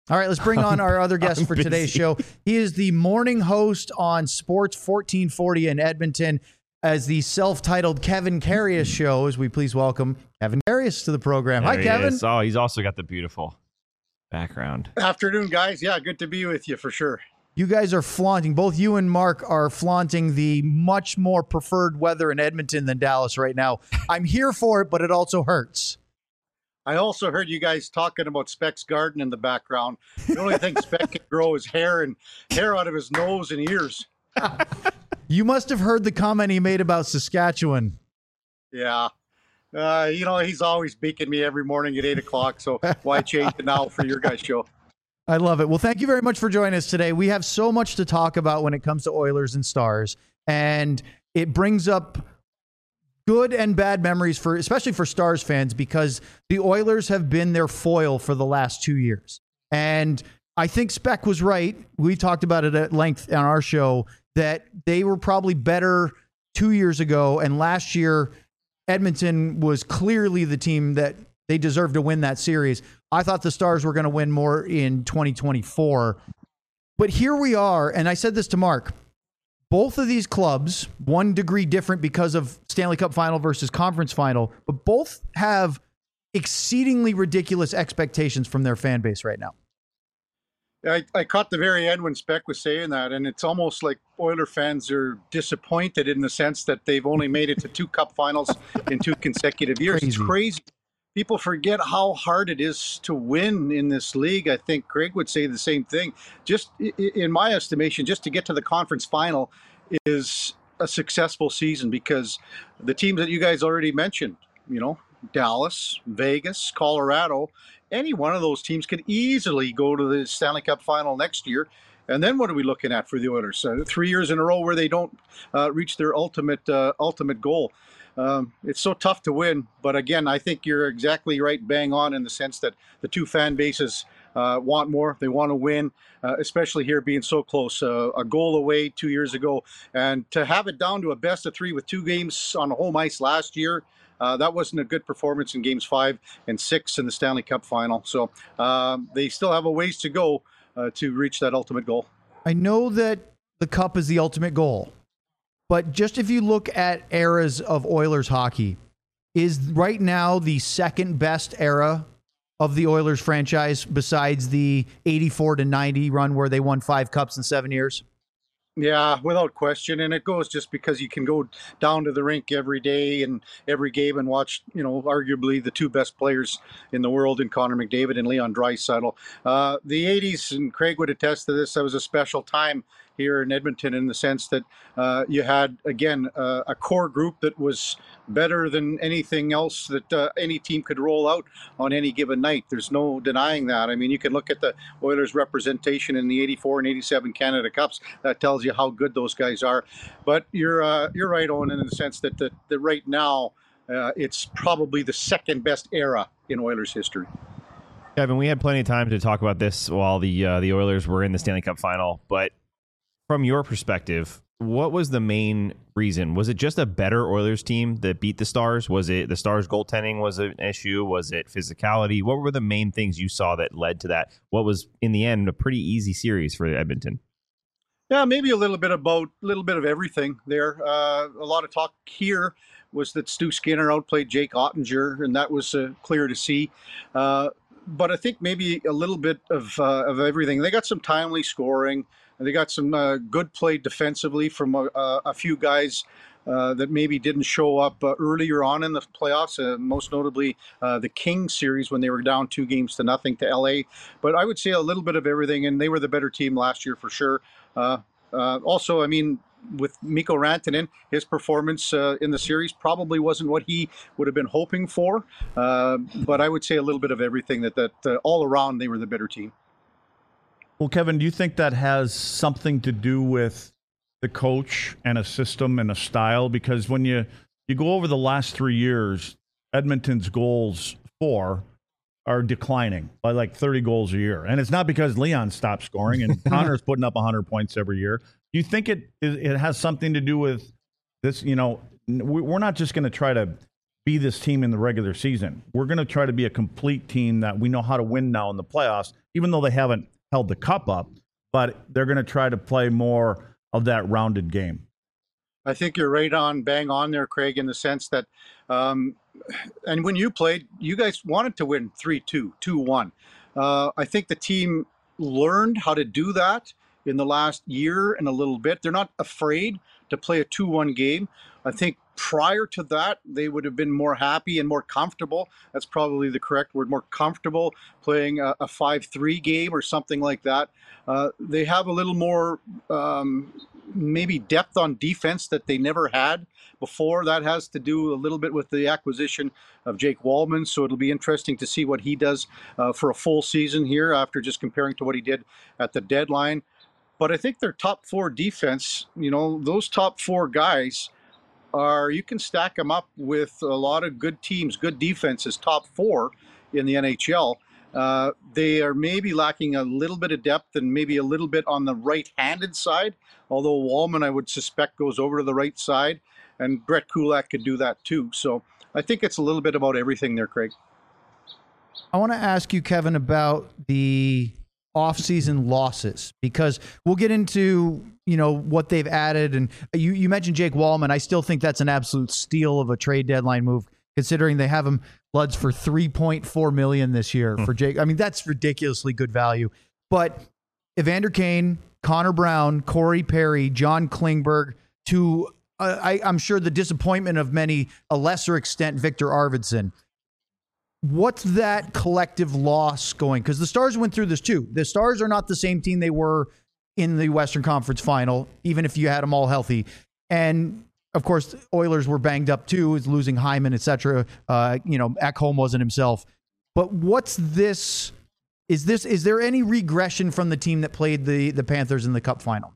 All right, let's bring on our other guest I'm for today's busy. show. He is the morning host on Sports fourteen forty in Edmonton as the self-titled Kevin Karius Show, as we please welcome Kevin Karius to the program. There Hi, he Kevin. is. Oh, he's also got the beautiful background. Afternoon, guys. Yeah, good to be with you for sure. You guys are flaunting, both you and Mark are flaunting the much more preferred weather in Edmonton than Dallas right now. I'm here for it, but it also hurts. I also heard you guys talking about Speck's garden in the background. The only thing Speck can grow is hair and hair out of his nose and ears. You must have heard the comment he made about Saskatchewan. Yeah. Uh, you know, he's always beaking me every morning at eight o'clock, so why change it now for your guys' show? I love it. Well, thank you very much for joining us today. We have so much to talk about when it comes to Oilers and Stars, and it brings up good and bad memories for, especially for Stars fans, because the Oilers have been their foil for the last two years. And I think Speck was right. We talked about it at length on our show that they were probably better two years ago, and last year Edmonton was clearly the team that they deserved to win that series. I thought the Stars were going to win more in twenty twenty-four. But here we are, and I said this to Mark. Both of these clubs, one degree different because of Stanley Cup final versus conference final, but both have exceedingly ridiculous expectations from their fan base right now. I, I caught the very end when Speck was saying that, and it's almost like Oiler fans are disappointed in the sense that they've only made it to two Cup finals in two consecutive years. Crazy. It's crazy. People forget how hard it is to win in this league. I think Craig would say the same thing. Just in my estimation, just to get to the conference final is a successful season because the teams that you guys already mentioned, you know, Dallas, Vegas, Colorado, any one of those teams could easily go to the Stanley Cup final next year. And then what are we looking at for the Oilers? Uh, three years in a row where they don't uh, reach their ultimate uh, ultimate goal. Um, it's so tough to win, but again, I think you're exactly right, bang on in the sense that the two fan bases uh, want more. They want to win, uh, especially here being so close. Uh, a goal away two years ago, and to have it down to a best of three with two games on home ice last year, uh, that wasn't a good performance in games five and six in the Stanley Cup final. So um, they still have a ways to go uh, to reach that ultimate goal. I know that the Cup is the ultimate goal. But just if you look at eras of Oilers hockey, is right now the second best era of the Oilers franchise besides the eighty-four to ninety run where they won five cups in seven years? Yeah, without question. And it goes just because you can go down to the rink every day and every game and watch, you know, arguably the two best players in the world in Connor McDavid and Leon Draisaitl. Uh, the eighties, and Craig would attest to this, that was a special time here in Edmonton in the sense that uh, you had, again, uh, a core group that was better than anything else that uh, any team could roll out on any given night. There's no denying that. I mean, you can look at the Oilers representation in the eighty-four and eighty-seven Canada Cups. That tells you how good those guys are. But you're uh, you're right, Owen, in the sense that, that, that right now uh, it's probably the second best era in Oilers history. Kevin, we had plenty of time to talk about this while the uh, the Oilers were in the Stanley Cup final, but from your perspective, what was the main reason? Was it just a better Oilers team that beat the Stars? Was it the Stars goaltending was an issue? Was it physicality? What were the main things you saw that led to that? What was, in the end, a pretty easy series for Edmonton? Yeah, maybe a little bit about a little bit of everything there. Uh, a lot of talk here was that Stu Skinner outplayed Jake Ottinger, and that was uh, clear to see. Uh, but I think maybe a little bit of uh, of everything. They got some timely scoring. They got some uh, good play defensively from a, a few guys uh, that maybe didn't show up uh, earlier on in the playoffs, uh, most notably uh, the Kings series when they were down two games to nothing to L A. But I would say a little bit of everything, and they were the better team last year for sure. Uh, uh, also, I mean, with Mikko Rantanen, his performance uh, in the series probably wasn't what he would have been hoping for. Uh, but I would say a little bit of everything that, that uh, all around they were the better team. Well, Kevin, do you think that has something to do with the coach and a system and a style? Because when you, you go over the last three years, Edmonton's goals for are declining by like thirty goals a year. And it's not because Leon stopped scoring and Connor's putting up one hundred points every year. Do you think it it has something to do with this? You know, we're not just going to try to be this team in the regular season. We're going to try to be a complete team that we know how to win now in the playoffs. even though they haven't held the cup up, but they're going to try to play more of that rounded game. I think you're right on, bang on there, Craig, in the sense that, um, and when you played, you guys wanted to win three two, two one. Uh, I think the team learned how to do that in the last year and a little bit. They're not afraid to play a two one game. I think prior to that, they would have been more happy and more comfortable. That's probably the correct word, more comfortable playing a, a five three game or something like that. Uh, they have a little more um, maybe depth on defense that they never had before. That has to do a little bit with the acquisition of Jake Wallman. So it'll be interesting to see what he does uh, for a full season here after just comparing to what he did at the deadline. But I think their top four defense, you know, those top four guys are, you can stack them up with a lot of good teams, good defenses, top four in the N H L. Uh, they are maybe lacking a little bit of depth and maybe a little bit on the right-handed side, although Wallman, I would suspect, goes over to the right side, and Brett Kulak could do that too. So I think it's a little bit about everything there, Craig. I want to ask you, Kevin, about the off-season losses, because we'll get into, you know, what they've added. And you, you mentioned Jake Wallman. I still think that's an absolute steal of a trade deadline move, considering they have him Bloods for three point four million dollars this year for Jake. I mean, that's ridiculously good value. But Evander Kane, Connor Brown, Corey Perry, John Klingberg, to uh, I, I'm sure the disappointment of many, a lesser extent, Victor Arvidsson. What's that collective loss going? Because the Stars went through this too. The Stars are not the same team they were in the Western Conference Final, even if you had them all healthy. And of course, Oilers were banged up too, is losing Hyman, et cetera. Uh, you know, Ekholm wasn't himself. But what's this? Is this? Is there any regression from the team that played the the Panthers in the Cup final?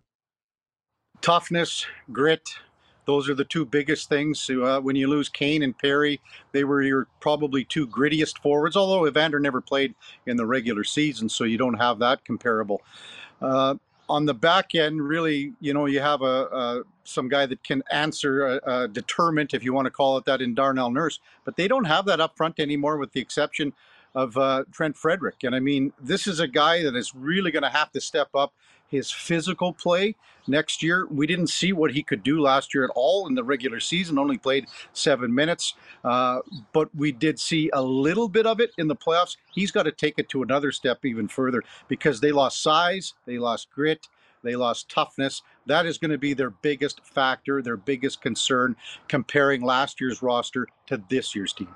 Toughness, grit. Those are the two biggest things. Uh, when you lose Kane and Perry, they were your probably two grittiest forwards, although Evander never played in the regular season, so you don't have that comparable. Uh, on the back end, really, you know, you have a, a some guy that can answer, a, a determinant, if you want to call it that, in Darnell Nurse, but they don't have that up front anymore, with the exception of uh, Trent Frederick. And I mean, this is a guy that is really going to have to step up his physical play next year. We didn't see what he could do last year at all in the regular season, only played seven minutes. Uh, but we did see a little bit of it in the playoffs. He's got to take it to another step even further, because they lost size, they lost grit, they lost toughness. That is going to be their biggest factor, their biggest concern, comparing last year's roster to this year's team.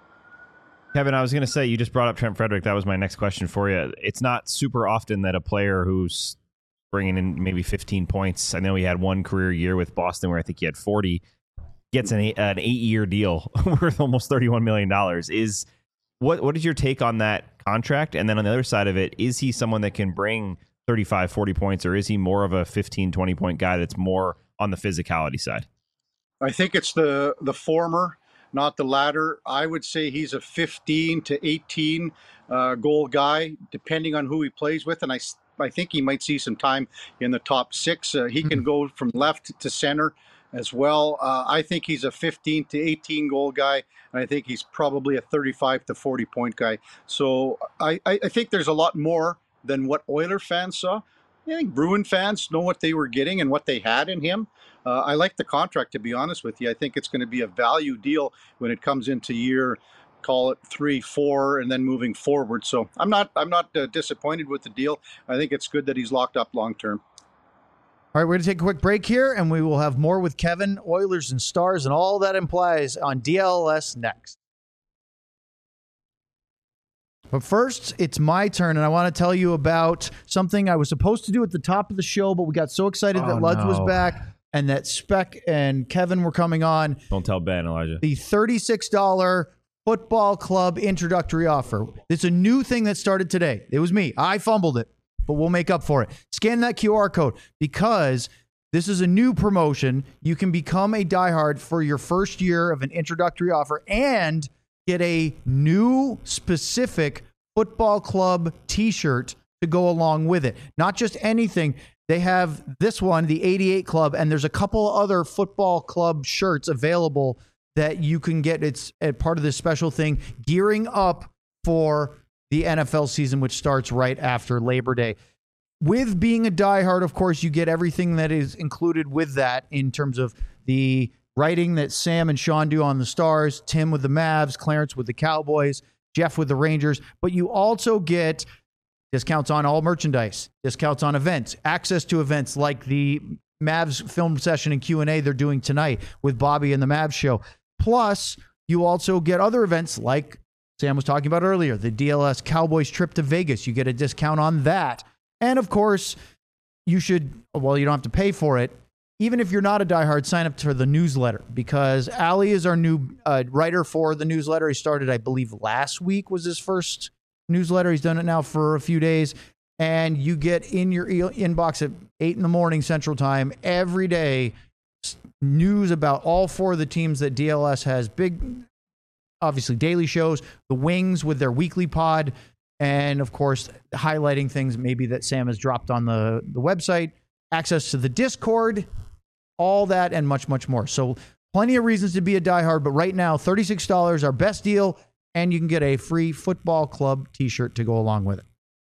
Kevin, I was going to say, you just brought up Trent Frederick. That was my next question for you. It's not super often that a player who's bringing in maybe fifteen points, I know he had one career year with Boston where I think he had forty, gets an, eight, an eight-year deal worth almost thirty-one million dollars. Is what what is your take on that contract? And then on the other side of it, is he someone that can bring thirty-five, forty points, or is he more of a fifteen, twenty-point guy that's more on the physicality side? I think it's the the former, not the latter. I would say he's a fifteen to eighteen uh, goal guy, depending on who he plays with. And I, I think he might see some time in the top six. Uh, he can go from left to center as well. Uh, I think he's a fifteen to eighteen goal guy. And I think he's probably a thirty-five to forty point guy. So I, I think there's a lot more than what Oiler fans saw. I think Bruin fans know what they were getting and what they had in him. Uh, I like the contract, to be honest with you. I think it's going to be a value deal when it comes into year, call it three, four, and then moving forward. So I'm not, I'm not uh, disappointed with the deal. I think it's good that he's locked up long term. All right, we're going to take a quick break here, and we will have more with Kevin, Oilers and Stars, and all that implies on D L S next. But first, it's my turn, and I want to tell you about something I was supposed to do at the top of the show, but we got so excited oh, that Luds no. was back and that Speck and Kevin were coming on. Don't tell Ben, Elijah. The thirty-six dollars Football Club introductory offer. It's a new thing that started today. It was me. I fumbled it, but we'll make up for it. Scan that Q R code, because this is a new promotion. You can become a diehard for your first year of an introductory offer and get a new specific Football Club t-shirt to go along with it. Not just anything. They have this one, the eighty-eight Club, and there's a couple other Football Club shirts available that you can get. It's a part of this special thing, gearing up for the N F L season, which starts right after Labor Day. With being a diehard, of course, you get everything that is included with that in terms of the writing that Sam and Sean do on the Stars, Tim with the Mavs, Clarence with the Cowboys, Jeff with the Rangers. But you also get discounts on all merchandise, discounts on events, access to events like the Mavs film session and Q and A they're doing tonight with Bobby and the Mavs show. Plus, you also get other events like Sam was talking about earlier, the D L S Cowboys trip to Vegas. You get a discount on that. And of course, you should, well, you don't have to pay for it. Even if you're not a diehard, sign up for the newsletter, because Ali is our new uh, writer for the newsletter. He started, I believe, last week was his first newsletter. He's done it now for a few days. And you get in your e- inbox at eight in the morning Central Time every day news about all four of the teams that D L S has. Big, obviously, daily shows, the Wings with their weekly pod, and, of course, highlighting things maybe that Sam has dropped on the, the website, access to the Discord, all that and much, much more. So plenty of reasons to be a diehard, but right now, thirty-six dollars, our best deal, and you can get a free football club t-shirt to go along with it.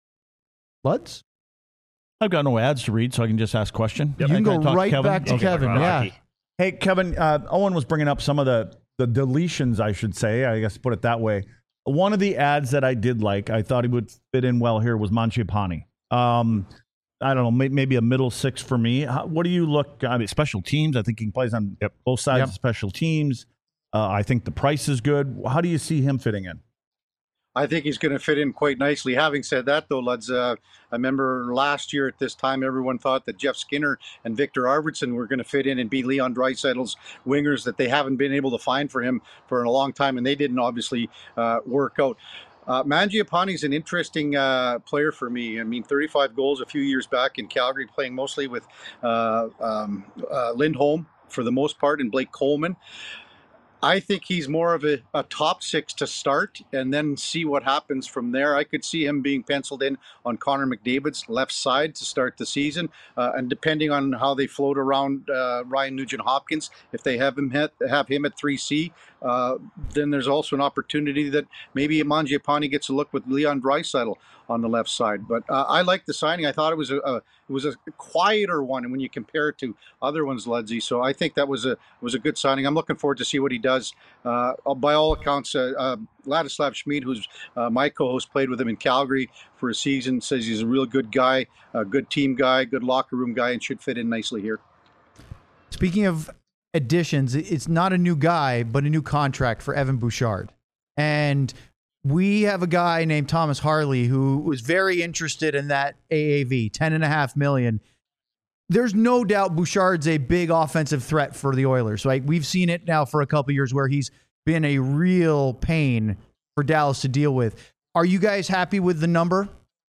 Luds? I've got no ads to read, so I can just ask a question. You can go talk right Kevin? back to Okay. Kevin, yeah. Hey, Kevin, uh, Owen was bringing up some of the, the deletions, I should say. I guess put it that way. One of the ads that I did like, I thought he would fit in well here, was Mangiapane. Um, I don't know, may, maybe a middle six for me. How, what do you look, I mean, special teams, I think he plays on yep. both sides Yep. of special teams. Uh, I think the price is good. How do you see him fitting in? I think he's going to fit in quite nicely. Having said that, though, Luds, uh, I remember last year at this time, everyone thought that Jeff Skinner and Victor Arvidsson were going to fit in and be Leon Draisaitl's wingers that they haven't been able to find for him for a long time, and they didn't obviously uh, work out. Uh, Mangiapane is an interesting uh, player for me. I mean, thirty-five goals a few years back in Calgary, playing mostly with uh, um, uh, Lindholm for the most part and Blake Coleman. I think he's more of a, a top six to start and then see what happens from there. I could see him being penciled in on Connor McDavid's left side to start the season. Uh, and depending on how they float around uh, Ryan Nugent-Hopkins, if they have him hit, have him at three C, uh, then there's also an opportunity that maybe Mangiapane gets a look with Leon Draisaitl on the left side. But uh, I like the signing. I thought it was a, a it was a quieter one when you compare it to other ones, Ludsey. So I think that was a was a good signing. I'm looking forward to see what he does. Uh, by all accounts, uh, uh, Ladislav Schmid, who's uh, my co-host, played with him in Calgary for a season, says he's a real good guy, a good team guy, good locker room guy, and should fit in nicely here. Speaking of additions, it's not a new guy, but a new contract for Evan Bouchard. And we have a guy named Thomas Harley who was very interested in that A A V, ten and a half million. There's no doubt Bouchard's a big offensive threat for the Oilers, right? We've seen it now for a couple of years where he's been a real pain for Dallas to deal with. Are you guys happy with the number?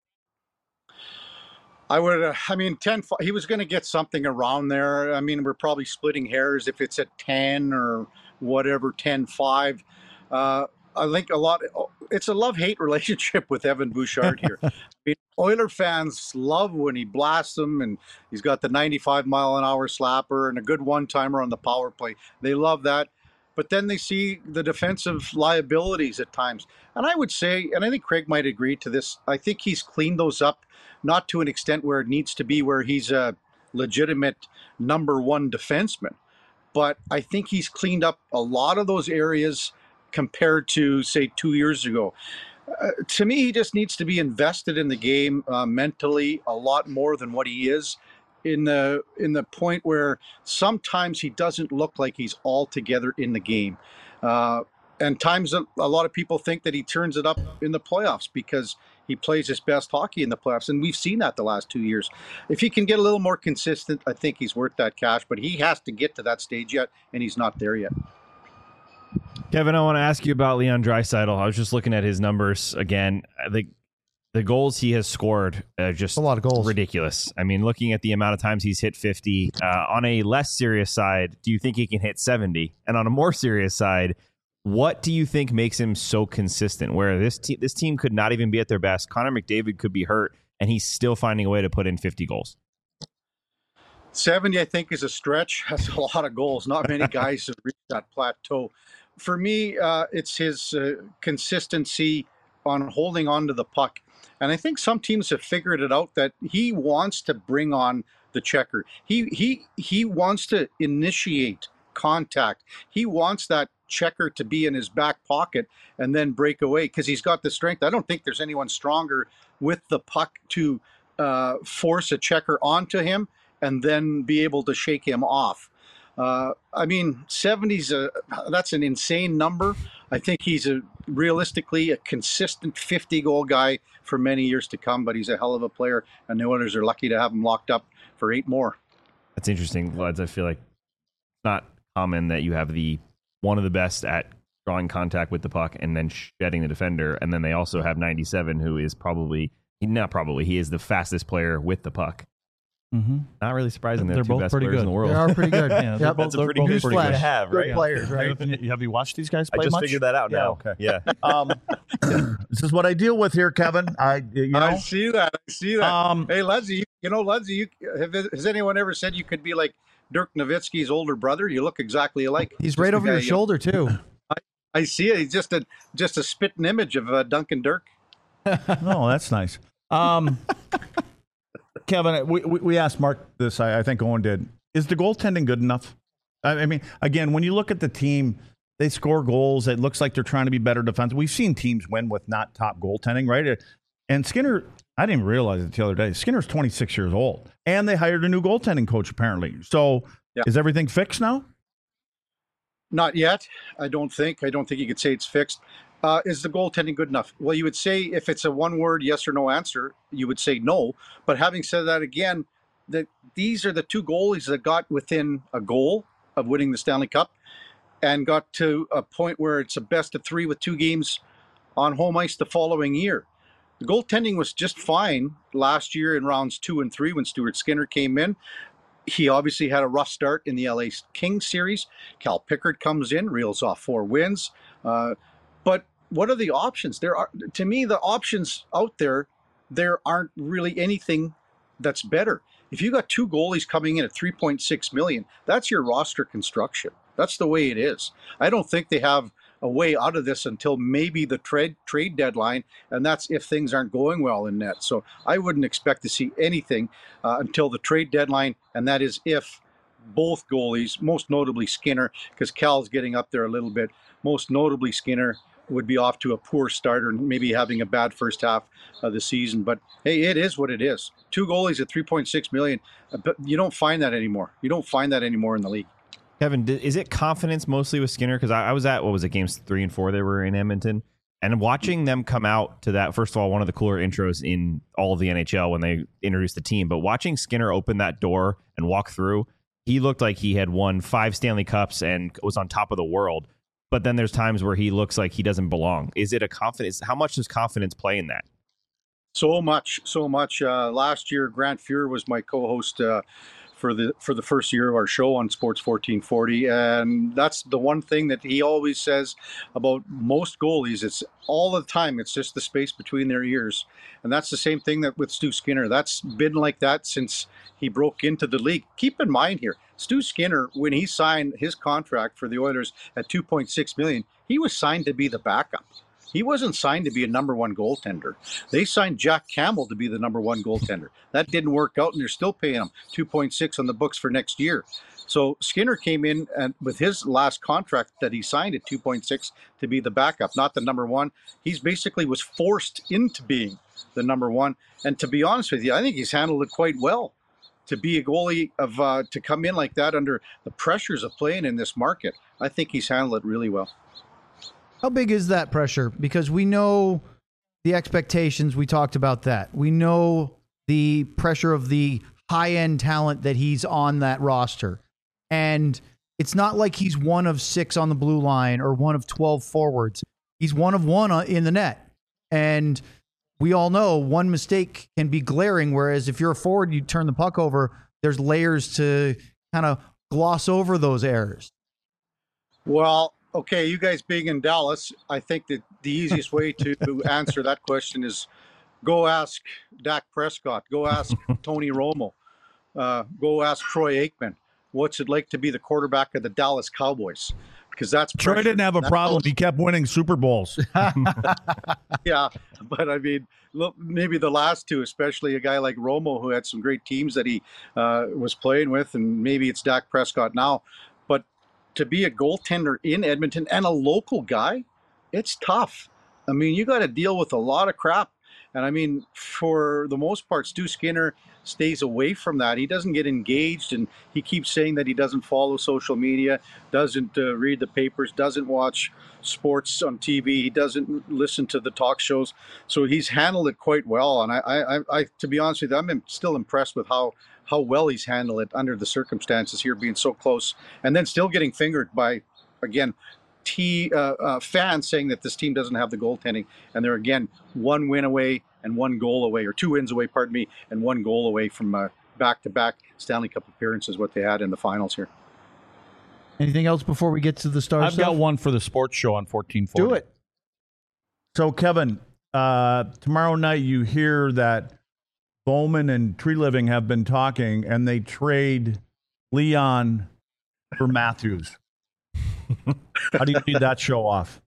I would, uh, I mean, ten, he was going to get something around there. I mean, we're probably splitting hairs if it's at ten or whatever, ten five. Uh, I think a lot, it's a love-hate relationship with Evan Bouchard here. I mean, Oiler fans love when he blasts them, and he's got the ninety-five mile an hour slapper and a good one-timer on the power play. They love that. But then they see the defensive liabilities at times. And I would say, and I think Craig might agree to this, I think he's cleaned those up, not to an extent where it needs to be where he's a legitimate number one defenseman. But I think he's cleaned up a lot of those areas compared to, say, two years ago. Uh, to me, he just needs to be invested in the game uh, mentally a lot more than what he is, in the in the point where sometimes he doesn't look like he's all together in the game. Uh, and times a, a lot of people think that he turns it up in the playoffs because he plays his best hockey in the playoffs. And we've seen that the last two years. If he can get a little more consistent, I think he's worth that cash. But he has to get to that stage yet, and he's not there yet. Kevin, I want to ask you about Leon Draisaitl. I was just looking at his numbers again. I think the goals he has scored are just a lot of goals. Ridiculous. I mean, looking at the amount of times he's hit fifty, uh, on a less serious side, do you think he can hit seventy? And on a more serious side, what do you think makes him so consistent? Where this te- this team could not even be at their best. Connor McDavid could be hurt, and he's still finding a way to put in fifty goals. seventy, I think, is a stretch. That's a lot of goals. Not many guys have reached that plateau. For me, uh, it's his uh, consistency on holding on to the puck. And I think some teams have figured it out that he wants to bring on the checker. He he he wants to initiate contact. He wants that checker to be in his back pocket and then break away because he's got the strength. I don't think there's anyone stronger with the puck to uh, force a checker onto him and then be able to shake him off. Uh, I mean, seventy's a that's an insane number. I think he's a realistically a consistent fifty goal guy for many years to come, but he's a hell of a player, and the Oilers are lucky to have him locked up for eight more. That's interesting, lads. I feel like it's not common that you have the one of the best at drawing contact with the puck and then shedding the defender, and then they also have ninety-seven, who is probably not probably he is the fastest player with the puck. Mm-hmm. Not really surprising. They're, They're two both best pretty players good. in the world. They are pretty good. Yeah, they're Yep. both- That's a they're pretty both good pretty thing to good. have, Good right? players, right? Have you, have you watched these guys I play just much? figured that out Yeah, now. okay. Yeah. Um, this is what I deal with here, Kevin. I, you know, I see that. I see that. um, Hey, Leslie, you, you know, Leslie, you, have, has anyone ever said you could be like Dirk Nowitzki's older brother? You look exactly alike. He's Just right the over guy your you- shoulder too. I see it. He's just a just a spitting image of uh, Duncan Dirk. oh, that's nice. Um, Kevin, we, we we asked Mark this. I, I think Owen did. Is the goaltending good enough? I, I mean, again, when you look at the team, they score goals. It looks like they're trying to be better defense. We've seen teams win with not top goaltending, right? And Skinner, I didn't even realize it the other day. Skinner's twenty-six years old, and they hired a new goaltending coach apparently. So, Yeah. is everything fixed now? Not yet. I don't think. I don't think you could say it's fixed. Uh, is the goaltending good enough? Well, you would say if it's a one-word yes or no answer, you would say no. But having said that, again, that these are the two goalies that got within a goal of winning the Stanley Cup and got to a point where it's a best of three with two games on home ice the following year. The goaltending was just fine last year in rounds two and three when Stuart Skinner came in. He obviously had a rough start in the L A Kings series. Cal Pickard comes in, reels off four wins. Uh, but what are the options? There are, to me, the options out there, there aren't really anything that's better. If you got two goalies coming in at three point six million, that's your roster construction. That's the way it is. I don't think they have a way out of this until maybe the trade trade deadline, and that's if things aren't going well in net. So I wouldn't expect to see anything uh, until the trade deadline, and that is if both goalies, most notably Skinner, because Cal's getting up there a little bit, most notably Skinner would be off to a poor start or maybe having a bad first half of the season. But hey, it is what it is. Two goalies at three point six million, but you don't find that anymore. You don't find that anymore in the league. Kevin, is it confidence mostly with Skinner? Because I, I was at, what was it, games three and four they were in Edmonton, and watching them come out to that, first of all, one of the cooler intros in all of the N H L when they introduced the team, but watching Skinner open that door and walk through, he looked like he had won five Stanley Cups and was on top of the world. But then there's times where he looks like he doesn't belong. Is it a confidence? How much does confidence play in that? So much, so much. Uh, last year, Grant Fuhr was my co-host uh, for the for the first year of our show on Sports fourteen forty, and that's the one thing that he always says about most goalies. It's all the time. It's just the space between their ears, and that's the same thing that with Stu Skinner. That's been like that since he broke into the league. Keep in mind here, Stu Skinner, when he signed his contract for the Oilers at two point six million dollars, he was signed to be the backup. He wasn't signed to be a number one goaltender. They signed Jack Campbell to be the number one goaltender. That didn't work out, and they're still paying him two point six on the books for next year. So Skinner came in and with his last contract that he signed at two point six to be the backup, not the number one. He's basically was forced into being the number one. And to be honest with you, I think he's handled it quite well. To be a goalie of uh, to come in like that under the pressures of playing in this market, I think he's handled it really well. How big is that pressure? Because we know the expectations. We talked about that. We know the pressure of the high-end talent that he's on that roster. And it's not like he's one of six on the blue line or one of twelve forwards. He's one of one in the net. And we all know one mistake can be glaring, whereas if you're a forward, you turn the puck over, there's layers to kind of gloss over those errors. Well, okay, you guys being in Dallas, I think that the easiest way to answer that question is go ask Dak Prescott, go ask Tony Romo, uh, go ask Troy Aikman. What's it like to be the quarterback of the Dallas Cowboys? because that's Troy pressure. didn't have a That problem. goes- He kept winning Super Bowls. Yeah, but I mean, look, maybe the last two, especially a guy like Romo, who had some great teams that he uh, was playing with, and maybe it's Dak Prescott now. But to be a goaltender in Edmonton and a local guy, it's tough. I mean, you got to deal with a lot of crap. And I mean, for the most part, Stu Skinner stays away from that. He doesn't get engaged, and he keeps saying that he doesn't follow social media, doesn't uh, read the papers, doesn't watch sports on T V, he doesn't listen to the talk shows. So he's handled it quite well. And I, I, I to be honest with you, I'm still impressed with how how well he's handled it under the circumstances here, being so close, and then still getting fingered by, again, T uh, uh, fans saying that this team doesn't have the goaltending, and they're again one win away and one goal away, or two wins away, pardon me, and one goal away from uh, back-to-back Stanley Cup appearances, what they had in the finals here. Anything else before we get to the Stars? I've stuff? got one for the sports show on fourteen forty. Do it. So, Kevin, uh, tomorrow night you hear that Bowman and Tree Living have been talking, and they trade Leon for Matthews. How do you need that show off?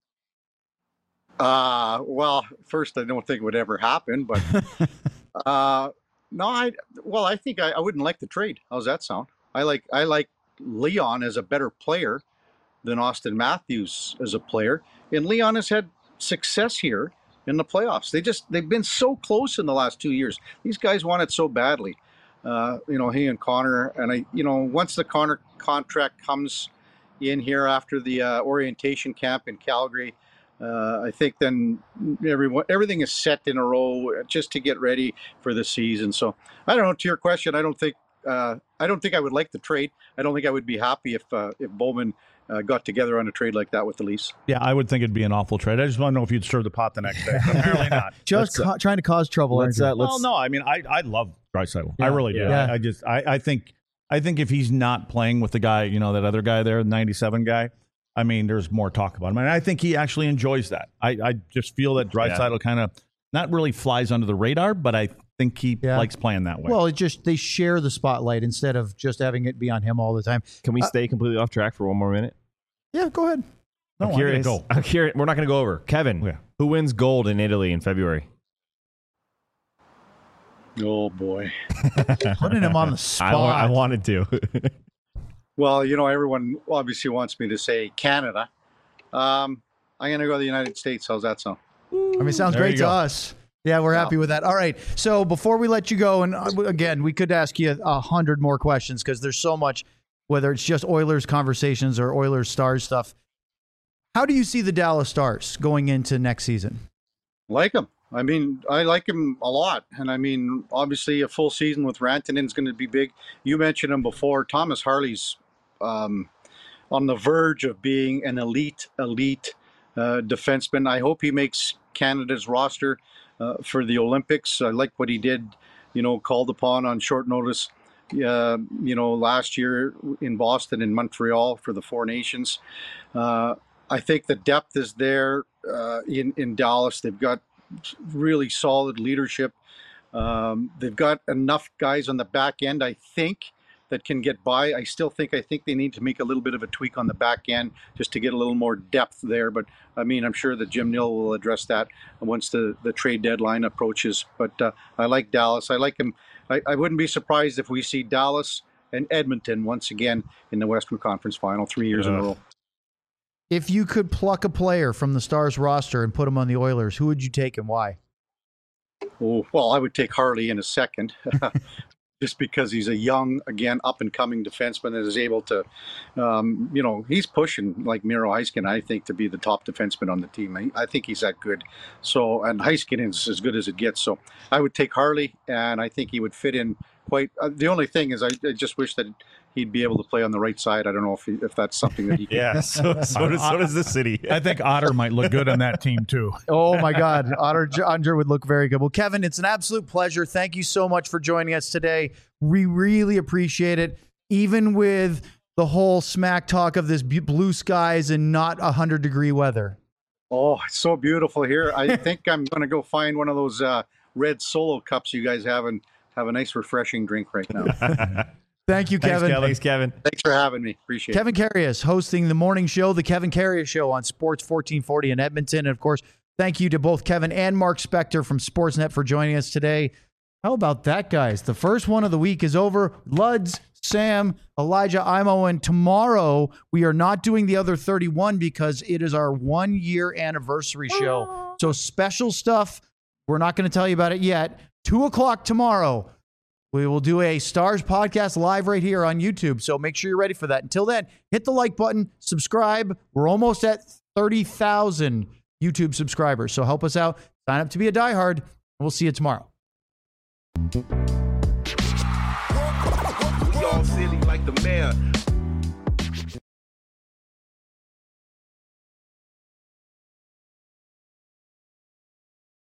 Uh, well, first, I don't think it would ever happen, but uh, no, I well, I think I, I wouldn't like the trade. How's that sound? I like I like Leon as a better player than Austin Matthews as a player, and Leon has had success here in the playoffs. They just they've been so close in the last two years. These guys want it so badly. Uh, you know, he and Connor, and I, you know, once the Connor contract comes in here after the uh, orientation camp in Calgary, uh, I think then everyone everything is set in a row just to get ready for the season. So I don't know. To your question, I don't think uh, I don't think I would like the trade. I don't think I would be happy if uh, if Bowman uh, got together on a trade like that with the Leafs. Yeah, I would think it'd be an awful trade. I just want to know if you'd stir the pot the next day. Apparently not. Just Let's, ca- trying to cause trouble. let's, aren't you? uh, Well, no, I mean, I I love Draisaitl. Yeah. I really do. Yeah. I, I just I, I think I think if he's not playing with the guy, you know, that other guy there, the ninety-seven guy, I mean, there's more talk about him. And I think he actually enjoys that. I, I just feel that Draisaitl Yeah. kind of not really flies under the radar, but I think he Yeah. likes playing that way. Well, it just they share the spotlight instead of just having it be on him all the time. Can we Uh, stay completely off track for one more minute? Yeah, go ahead. no, I'm I'm curious. gonna go. I'm curious. We're not going to go over. Kevin, Yeah. who wins gold in Italy in February? Oh boy. Putting him on the I, spot. wa- I wanted to. Well, you know, everyone obviously wants me to say Canada. Um, I'm going to go to the United States. How's that sound? I mean, it sounds There great you to go. us. Yeah, we're happy with that. All right. So before we let you go, and uh, again, we could ask you a hundred more questions because there's so much, whether it's just Oilers conversations or Oilers Stars stuff. How do you see the Dallas Stars going into next season? Like him. I mean, I like him a lot. And I mean, obviously, a full season with Rantanen is going to be big. You mentioned him before. Thomas Harley's um, on the verge of being an elite, elite uh, defenseman. I hope he makes Canada's roster uh, for the Olympics. I like what he did, you know, called upon on short notice, uh, you know, last year in Boston and Montreal for the Four Nations. Uh, I think the depth is there uh, in, in Dallas. They've got really solid leadership. Um, they've got enough guys on the back end, I think, that can get by. I still think I think they need to make a little bit of a tweak on the back end just to get a little more depth there. But I mean, I'm sure that Jim Nill will address that once the, the trade deadline approaches. But uh, I like Dallas. I like him. I, I wouldn't be surprised if we see Dallas and Edmonton once again in the Western Conference Final three years in a Ugh. row. If you could pluck a player from the Stars roster and put him on the Oilers, who would you take and why? Oh, well, I would take Harley in a second, just because he's a young, again, up-and-coming defenseman that is able to, um, you know, he's pushing like Miro Heiskanen, I think, to be the top defenseman on the team. I, I think he's that good. So, and Heiskanen is as good as it gets. So I would take Harley, and I think he would fit in quite. Uh, the only thing is I, I just wish that he'd be able to play on the right side. I don't know if he, if that's something that he can. yeah. So, so, does, so does the city. I think Otter might look good on that team too. Oh my God, Otter Andre would look very good. Well, Kevin, it's an absolute pleasure. Thank you so much for joining us today. We really appreciate it, even with the whole smack talk of this bu- blue skies and not a hundred degree weather. Oh, it's so beautiful here. I think I'm going to go find one of those uh, red Solo cups you guys have and have a nice refreshing drink right now. Thank you, Thanks, Kevin. Kevin. Thanks, Kevin. Thanks for having me. Appreciate it. Kevin Carius hosting the morning show, the Kevin Carius Show on Sports fourteen forty in Edmonton. And of course, thank you to both Kevin and Mark Spector from Sportsnet for joining us today. How about that, guys? The first one of the week is over. Luds, Sam, Elijah, Imo, and tomorrow we are not doing the other thirty-one because it is our one-year anniversary show. So special stuff. We're not going to tell you about it yet. Two o'clock tomorrow. We will do a Stars podcast live right here on YouTube. So make sure you're ready for that. Until then, hit the like button, subscribe. We're almost at thirty thousand YouTube subscribers. So help us out. Sign up to be a diehard. We'll see you tomorrow. We all silly like the mayor.